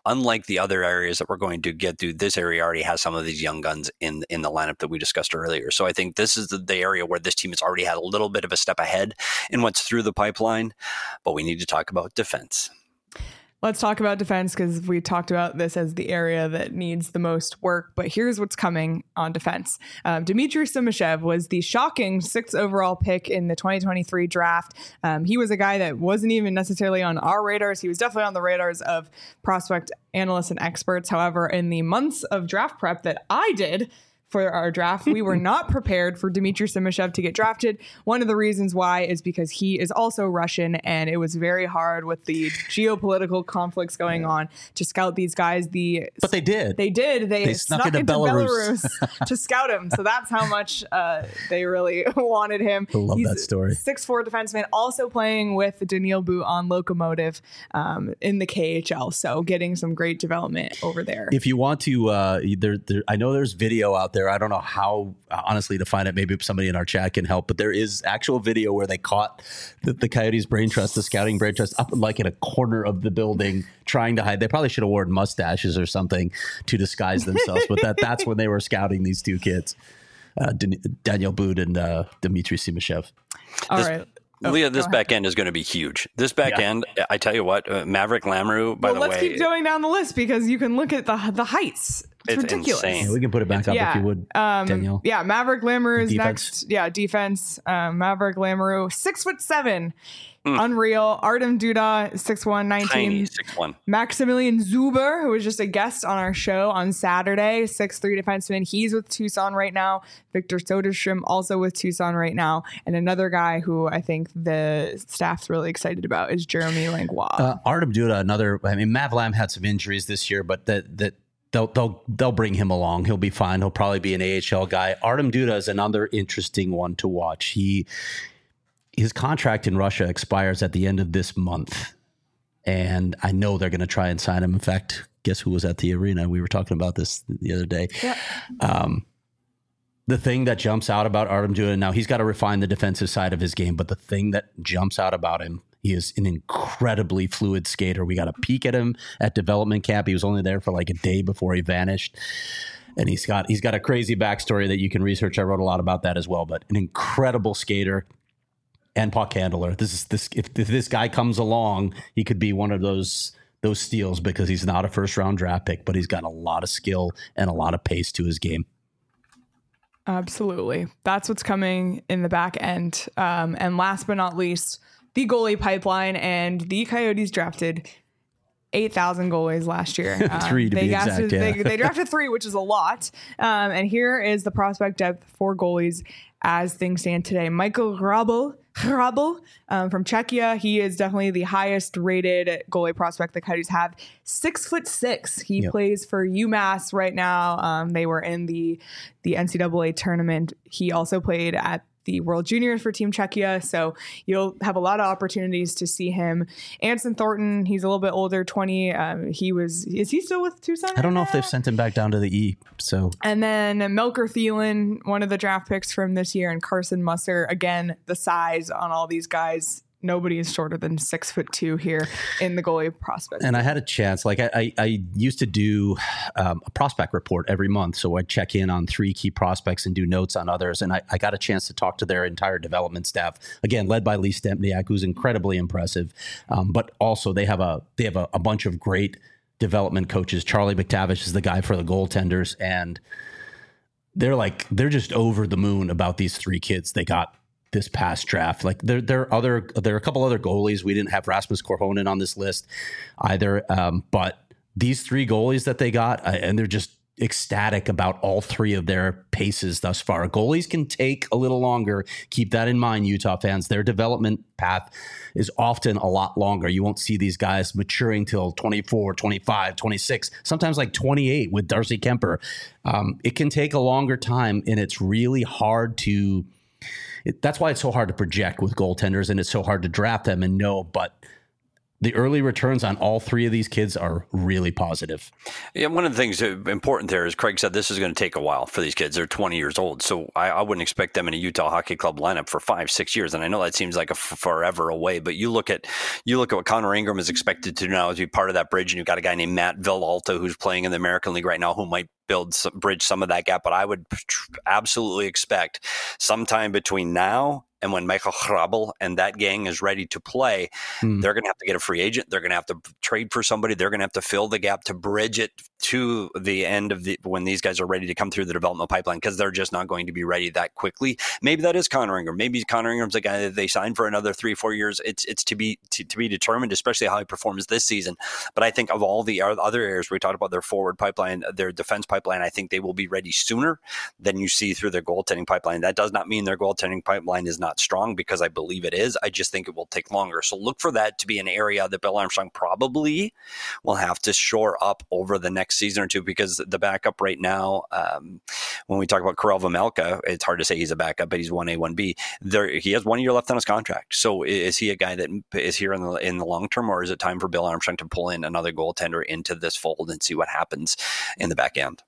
unlike the other areas that we're going to get to, this area already has some of these young guns in in the lineup that we discussed earlier. So I think this is the, the area where this team has already had a little bit of a step ahead in what's through the pipeline. But we need to talk about defense. Let's talk about defense, because we talked about this as the area that needs the most work. But here's what's coming on defense. Um, Dmitry Simashev was the shocking sixth overall pick in the twenty twenty-three draft. Um, he was a guy that wasn't even necessarily on our radars. He was definitely on the radars of prospect analysts and experts. However, in the months of draft prep that I did for our draft, we were not prepared for Dmitry Simashev to get drafted. One of the reasons why is because he is also Russian, and it was very hard with the geopolitical conflicts going on to scout these guys. The But they did. They did. They, They snuck, snuck into into Belarus. Belarus, to scout him. So that's how much uh, they really wanted him. I love He's that story. six foot four defenseman, also playing with Daniil But on Lokomotiv um, in the K H L. So getting some great development over there. If you want to, uh, there, there, I know there's video out there. I don't know how, uh, honestly, to find it. Maybe somebody in our chat can help. But there is actual video where they caught the, the Coyotes brain trust, the scouting brain trust, up like in a corner of the building, trying to hide. They probably should have worn mustaches or something to disguise themselves. But that that's when they were scouting these two kids, uh, Dan- Daniil But and uh, Dmitry Simashev. All This- right. Oh, Leah, this go back end is going to be huge. This back Yeah. end, I tell you what, uh, Maverick Lamoureux, by Well, the let's way, keep going down the list, because you can look at the the heights. It's, It's ridiculous. insane. Yeah, we can put it back up Yeah. if you would, Um, Danielle. yeah, Maverick Lamoureux is Defense. next. Yeah, defense. Um, Maverick Lamoureux, six foot seven, unreal. Artem Duda, six one, tiny nineteen. six one. Maximilian Zuber, who was just a guest on our show on Saturday, six three defenseman. He's with Tucson right now. Victor Soderstrom also with Tucson right now. And another guy who I think the staff's really excited about is Jeremy Langlois. Uh, Artem Duda, another. I mean, Mav Lam had some injuries this year, but that that they'll they'll they'll bring him along. He'll be fine. He'll probably be an A H L guy. Artem Duda is another interesting one to watch. He his contract in Russia expires at the end of this month, and I know they're going to try and sign him. In fact, guess who was at the arena? We were talking about this the other day. Yeah. Um, the thing that jumps out about Artem Duda, now he's got to refine the defensive side of his game, but the thing that jumps out about him, he is an incredibly fluid skater. We got a peek at him at development camp. He was only there for like a day before he vanished. And he's got he's got a crazy backstory that you can research. I wrote a lot about that as well, but an incredible skater and puck handler. This is this if, if this guy comes along, he could be one of those those steals, because he's not a first round draft pick, but he's got a lot of skill and a lot of pace to his game. Absolutely. That's what's coming in the back end. Um, and last but not least, the goalie pipeline. And the Coyotes drafted eight thousand goalies last year. Um, Three to they be exact, drafted, yeah. they, they drafted three, which is a lot. Um, and here is the prospect depth for goalies as things stand today. Michael Hrabal, Hrabal um, from Czechia. He is definitely the highest rated goalie prospect the Coyotes have. Six foot six. He Yep. plays for UMass right now. Um, they were in the the N C double A tournament. He also played at the World Juniors for Team Czechia. So you'll have a lot of opportunities to see him. Anson Thornton, he's a little bit older, twenty. Um, he was, is he still with Tucson? I don't know right if they've now? sent him back down to the E. So And then Melker Thielen, one of the draft picks from this year, and Carson Musser. Again, the size on all these guys. Nobody is shorter than six foot two here in the goalie prospect. And I had a chance, like I, I, I used to do um, a prospect report every month. So I'd check in on three key prospects and do notes on others. And I, I got a chance to talk to their entire development staff, again, led by Lee Stempniak, who's incredibly impressive. Um, but also they have a they have a, a bunch of great development coaches. Charlie McTavish is the guy for the goaltenders. And they're like, they're just over the moon about these three kids they got this past draft. Like there, there are other, there are a couple other goalies. We didn't have Rasmus Korhonen on this list either. Um, but these three goalies that they got, uh, and they're just ecstatic about all three of their paces thus far. Goalies can take a little longer. Keep that in mind, Utah fans. Their development path is often a lot longer. You won't see these guys maturing till twenty-four, twenty-five, twenty-six, sometimes like twenty-eight with Darcy Kemper. Um, it can take a longer time, and it's really hard to It, that's why it's so hard to project with goaltenders, and it's so hard to draft them and know. But the early returns on all three of these kids are really positive. Yeah, one of the things important there is Craig said this is going to take a while for these kids. They're twenty years old, so I, I wouldn't expect them in a Utah Hockey Club lineup for five, six years. And I know that seems like a f- forever away, but you look at you look at what Connor Ingram is expected to do now as be part of that bridge, and you've got a guy named Matt Villalta who's playing in the American League right now who might build some, bridge some of that gap. But I would absolutely expect sometime between now and when Michael Hrabal and that gang is ready to play, mm. they're going to have to get a free agent. They're going to have to trade for somebody. They're going to have to fill the gap to bridge it to the end of the when these guys are ready to come through the development pipeline, because they're just not going to be ready that quickly. Maybe that is Connor Ingram. Maybe Connor Ingram's a guy that they signed for another three, four years. It's it's to be to, to be determined, especially how he performs this season. But I think of all the other areas we talked about, their forward pipeline, their defense pipeline, I think they will be ready sooner than you see through their goaltending pipeline. That does not mean their goaltending pipeline is not strong, because I believe it is. I just think it will take longer. So look for that to be an area that Bill Armstrong probably will have to shore up over the next season or two, because the backup right now, um, when we talk about Karel Vejmelka, it's hard to say he's a backup, but he's one A, one B. There, he has one year left on his contract. So is he a guy that is here in the in the long term, or is it time for Bill Armstrong to pull in another goaltender into this fold and see what happens in the back end?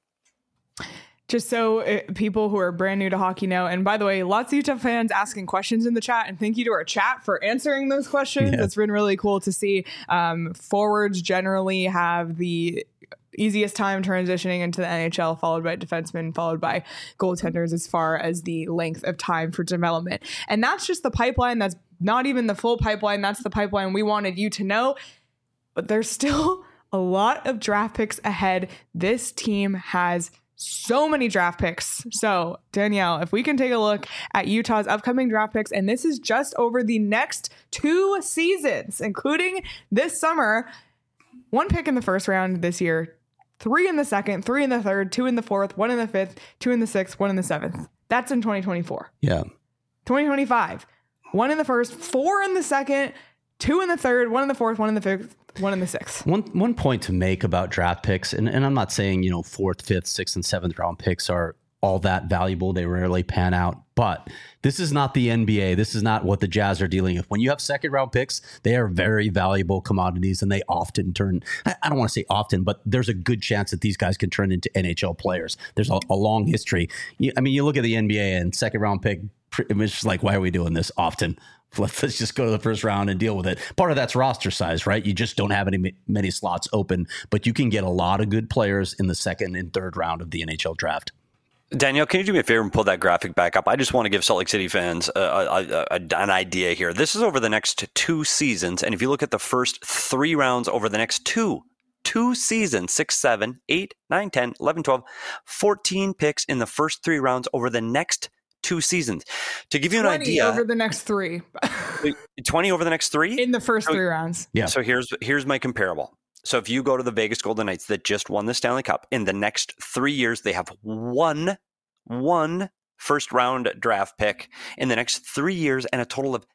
Just so it, people who are brand new to hockey know, and by the way, lots of Utah fans asking questions in the chat, and thank you to our chat for answering those questions. Yeah. It's been really cool to see. Um, forwards generally have the easiest time transitioning into the N H L, followed by defensemen, followed by goaltenders as far as the length of time for development. And that's just the pipeline. That's not even the full pipeline. That's the pipeline we wanted you to know. But there's still a lot of draft picks ahead. This team has so many draft picks. So Danielle, if we can take a look at Utah's upcoming draft picks, and this is just over the next two seasons, including this summer, one pick in the first round this year, three in the second, three in the third, two in the fourth, one in the fifth, two in the sixth, one in the seventh. That's in twenty twenty-four. Yeah. twenty twenty-five, one in the first, four in the second, two in the third, one in the fourth, one in the fifth, one in the sixth. One one point to make about draft picks, and, and I'm not saying, you know, fourth, fifth, sixth, and seventh round picks are all that valuable. They rarely pan out. But this is not the N B A. This is not what the Jazz are dealing with. When you have second round picks, they are very valuable commodities, and they often turn, I don't want to say often, but there's a good chance that these guys can turn into N H L players. There's a, a long history. I mean, you look at the N B A and second round pick, it's just like, why are we doing this often? Let's just go to the first round and deal with it. Part of that's roster size, right? You just don't have any many slots open, but you can get a lot of good players in the second and third round of the N H L draft. Danielle, can you do me a favor and pull that graphic back up? I just want to give Salt Lake City fans a, a, a, an idea here. This is over the next two seasons, and if you look at the first three rounds over the next two, two seasons, six, seven, eight, nine, ten, eleven, twelve, fourteen picks in the first three rounds over the next two seasons. To give you an idea, over the next three. twenty over the next three? In the first so, three rounds. Yeah. So here's here's my comparable. So if you go to the Vegas Golden Knights that just won the Stanley Cup, in the next three years, they have one, one first round draft pick in the next three years and a total of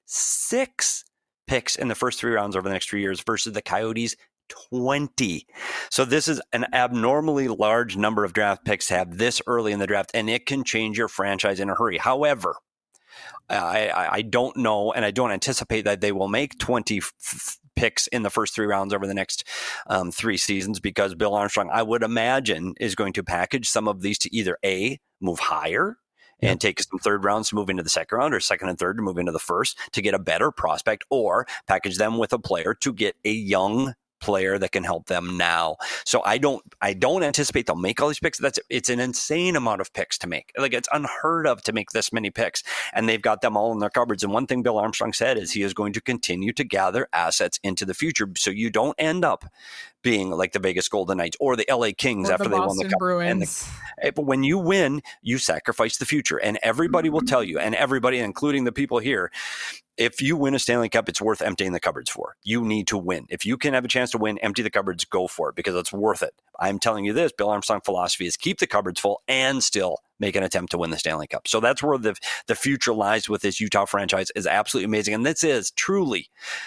six picks in the first three rounds over the next three years versus the Coyotes twenty. So this is an abnormally large number of draft picks to have this early in the draft, and it can change your franchise in a hurry. However, I, I don't know, and I don't anticipate that they will make twenty f- picks in the first three rounds over the next um, three seasons, because Bill Armstrong, I would imagine, is going to package some of these to either A, move higher and yep. take some third rounds to move into the second round, or second and third to move into the first to get a better prospect, or package them with a player to get a young player that can help them now. So I don't I don't anticipate they'll make all these picks. That's it's an insane amount of picks to make. Like, it's unheard of to make this many picks, and they've got them all in their cupboards. And one thing Bill Armstrong said is he is going to continue to gather assets into the future, so you don't end up being like the Vegas Golden Knights or the L A Kings or after the they Boston won the Cup. Bruins. And the, but when you win, you sacrifice the future, and everybody will tell you, and everybody, including the people here, if you win a Stanley Cup, it's worth emptying the cupboards for. You need to win. If you can have a chance to win, empty the cupboards, go for it, because it's worth it. I'm telling you this, Bill Armstrong philosophy is keep the cupboards full and still make an attempt to win the Stanley Cup. So that's where the, the future lies with this Utah franchise is absolutely amazing. And this is truly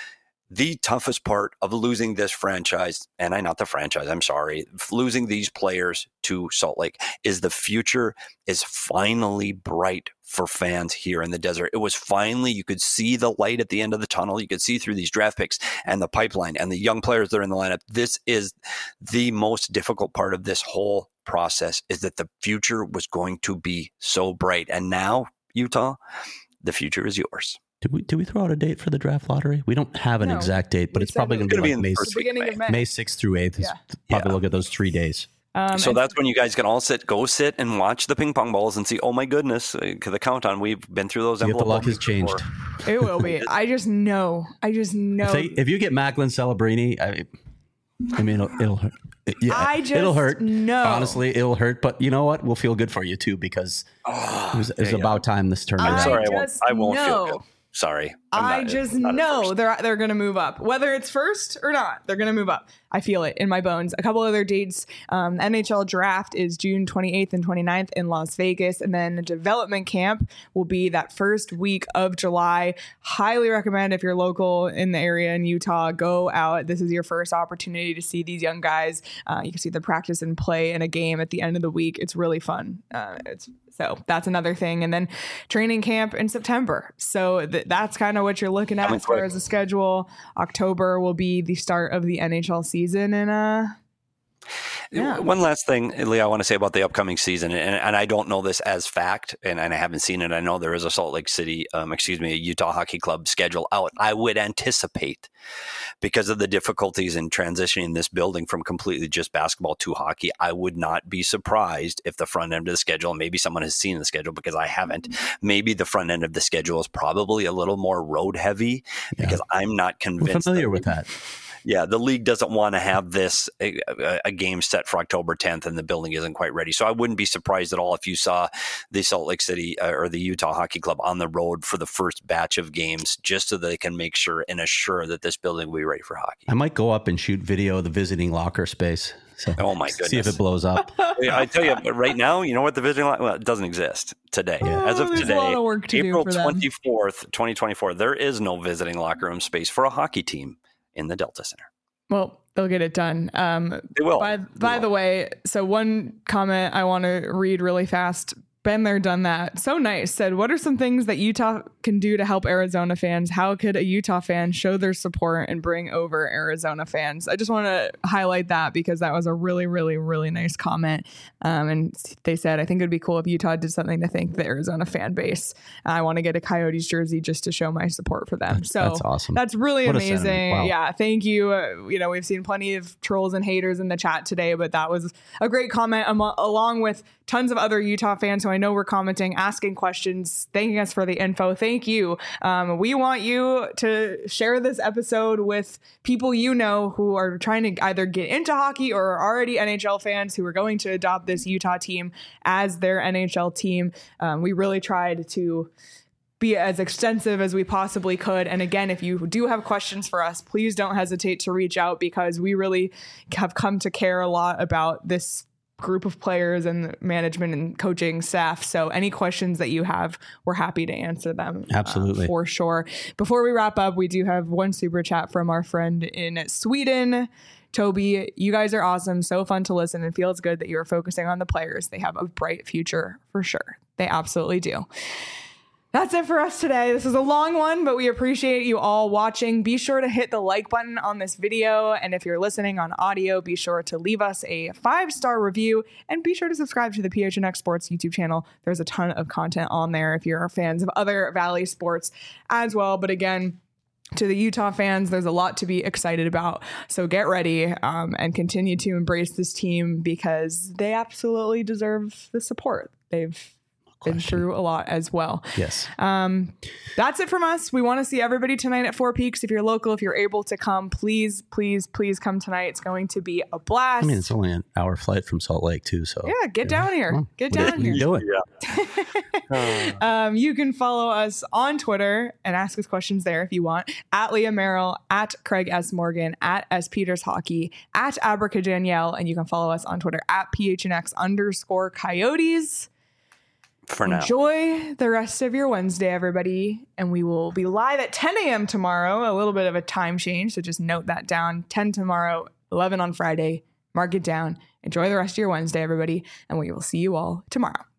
the toughest part of losing this franchise, and I not the franchise, I'm sorry, losing these players to Salt Lake, is the future is finally bright for fans here in the desert. It was finally, you could see the light at the end of the tunnel. You could see through these draft picks and the pipeline and the young players that are in the lineup. This is the most difficult part of this whole process, is that the future was going to be so bright. And now, Utah, the future is yours. Did we, did we throw out a date for the draft lottery? We don't have an No. exact date, but We it's said probably it going to was be gonna like be in May, the The first week beginning of of May. May sixth through eighth. Is Yeah. probably Yeah. look at those three days. Um, So and- that's when you guys can all sit, go sit and watch the ping pong balls and see, oh my goodness, uh, the countdown. We've been through those See if the envelope luck has bombings changed. before. It will be. I just know. I just know. If, they, if you get Macklin Celebrini, I, I mean, it'll, it'll hurt. Yeah, I just it'll hurt. know. Honestly, it'll hurt. But you know what? We'll feel good for you too, because Oh, it was, it was yeah, yeah. about time this turned I'm around. sorry, I won't, just I won't feel know. good. Sorry. I'm I not- just not at know first. they're they're going to move up, whether it's first or not. They're going to move up. I feel it in my bones. A couple other dates. Um, N H L draft is June twenty-eighth and twenty-ninth in Las Vegas, and then development camp will be that first week of July. Highly recommend, if you're local in the area in Utah, go out. This is your first opportunity to see these young guys. Uh, you can see them practice and play in a game at the end of the week. It's really fun. Uh, it's So that's another thing. And then training camp in September. So th- that's kind of what you're looking at Coming as far quick. as the schedule. October will be the start of the N H L season. And uh, Yeah. One last thing, Lee, I want to say about the upcoming season, and, and I don't know this as fact, and, and I haven't seen it. I know there is a Salt Lake City, um, excuse me, a Utah Hockey Club schedule out. I would anticipate, because of the difficulties in transitioning this building from completely just basketball to hockey, I would not be surprised if the front end of the schedule, and maybe someone has seen the schedule because I haven't, maybe the front end of the schedule is probably a little more road heavy, because I'm not We're convinced. familiar that with that. Yeah, the league doesn't want to have this a, a, a game set for October tenth, and the building isn't quite ready. So I wouldn't be surprised at all if you saw the Salt Lake City uh, or the Utah Hockey Club on the road for the first batch of games, just so they can make sure and assure that this building will be ready for hockey. I might go up and shoot video of the visiting locker space. So Oh my see if goodness. it blows up. I tell you, but right now, you know what the visiting lot? Well, it doesn't exist today. Yeah. As of Oh, there's a today, lot of work to do April for them. twenty-fourth, twenty twenty-four, there is no visiting locker room space for a hockey team in the Delta Center. well, they'll get it done. Um, They will. By, by the way, so one comment I want to read really fast. Been there, done that. So nice. Said, what are some things that Utah can do to help Arizona fans? How could a Utah fan show their support and bring over Arizona fans? I just want to highlight that because that was a really, really, really nice comment. Um, and they said, I think it'd be cool if Utah did something to thank the Arizona fan base. I want to get a Coyotes jersey just to show my support for them. So That's awesome. That's really What a amazing. sentiment. Wow. Yeah. Thank you. Uh, you know, we've seen plenty of trolls and haters in the chat today, but that was a great comment amo- along with tons of other Utah fans who I know were commenting, asking questions, thanking us for the info. Thank you. Um, we want you to share this episode with people you know who are trying to either get into hockey or are already N H L fans who are going to adopt this Utah team as their N H L team. Um, we really tried to be as extensive as we possibly could. And again, if you do have questions for us, please don't hesitate to reach out because we really have come to care a lot about this group of players and management and coaching staff. So any questions that you have, we're happy to answer them. uh, Absolutely. for sure. Before we wrap up, we do have one super chat from our friend in Sweden. Toby, you guys are awesome. So fun to listen and feels good that you are focusing on the players. They have a bright future for sure. They absolutely do. That's it for us today. This is a long one, but we appreciate you all watching. Be sure to hit the like button on this video. And if you're listening on audio, be sure to leave us a five-star review and be sure to subscribe to the P H N X Sports YouTube channel. There's a ton of content on there if you're fans of other Valley sports as well. But again, to the Utah fans, there's a lot to be excited about. So get ready um, and continue to embrace this team because they absolutely deserve the support. They've been through a lot as well. Yes. Um, that's it from us. We want to see everybody tonight at Four Peaks. If you're local, if you're able to come, please, please, please come tonight. It's going to be a blast. I mean, it's only an hour flight from Salt Lake too. So yeah, get down here. Come on. Get What are down you here. doing? Um, you can follow us on Twitter and ask us questions there if you want. At Leah Merrill, at Craig S. Morgan, at S. Peters Hockey, at Abraca Danielle, and you can follow us on Twitter at P H N X underscore Coyotes. For now. Enjoy the rest of your Wednesday, everybody. And we will be live at ten a.m. tomorrow. A little bit of a time change, so just note that down. ten tomorrow, eleven on Friday. Mark it down. Enjoy the rest of your Wednesday, everybody. And we will see you all tomorrow.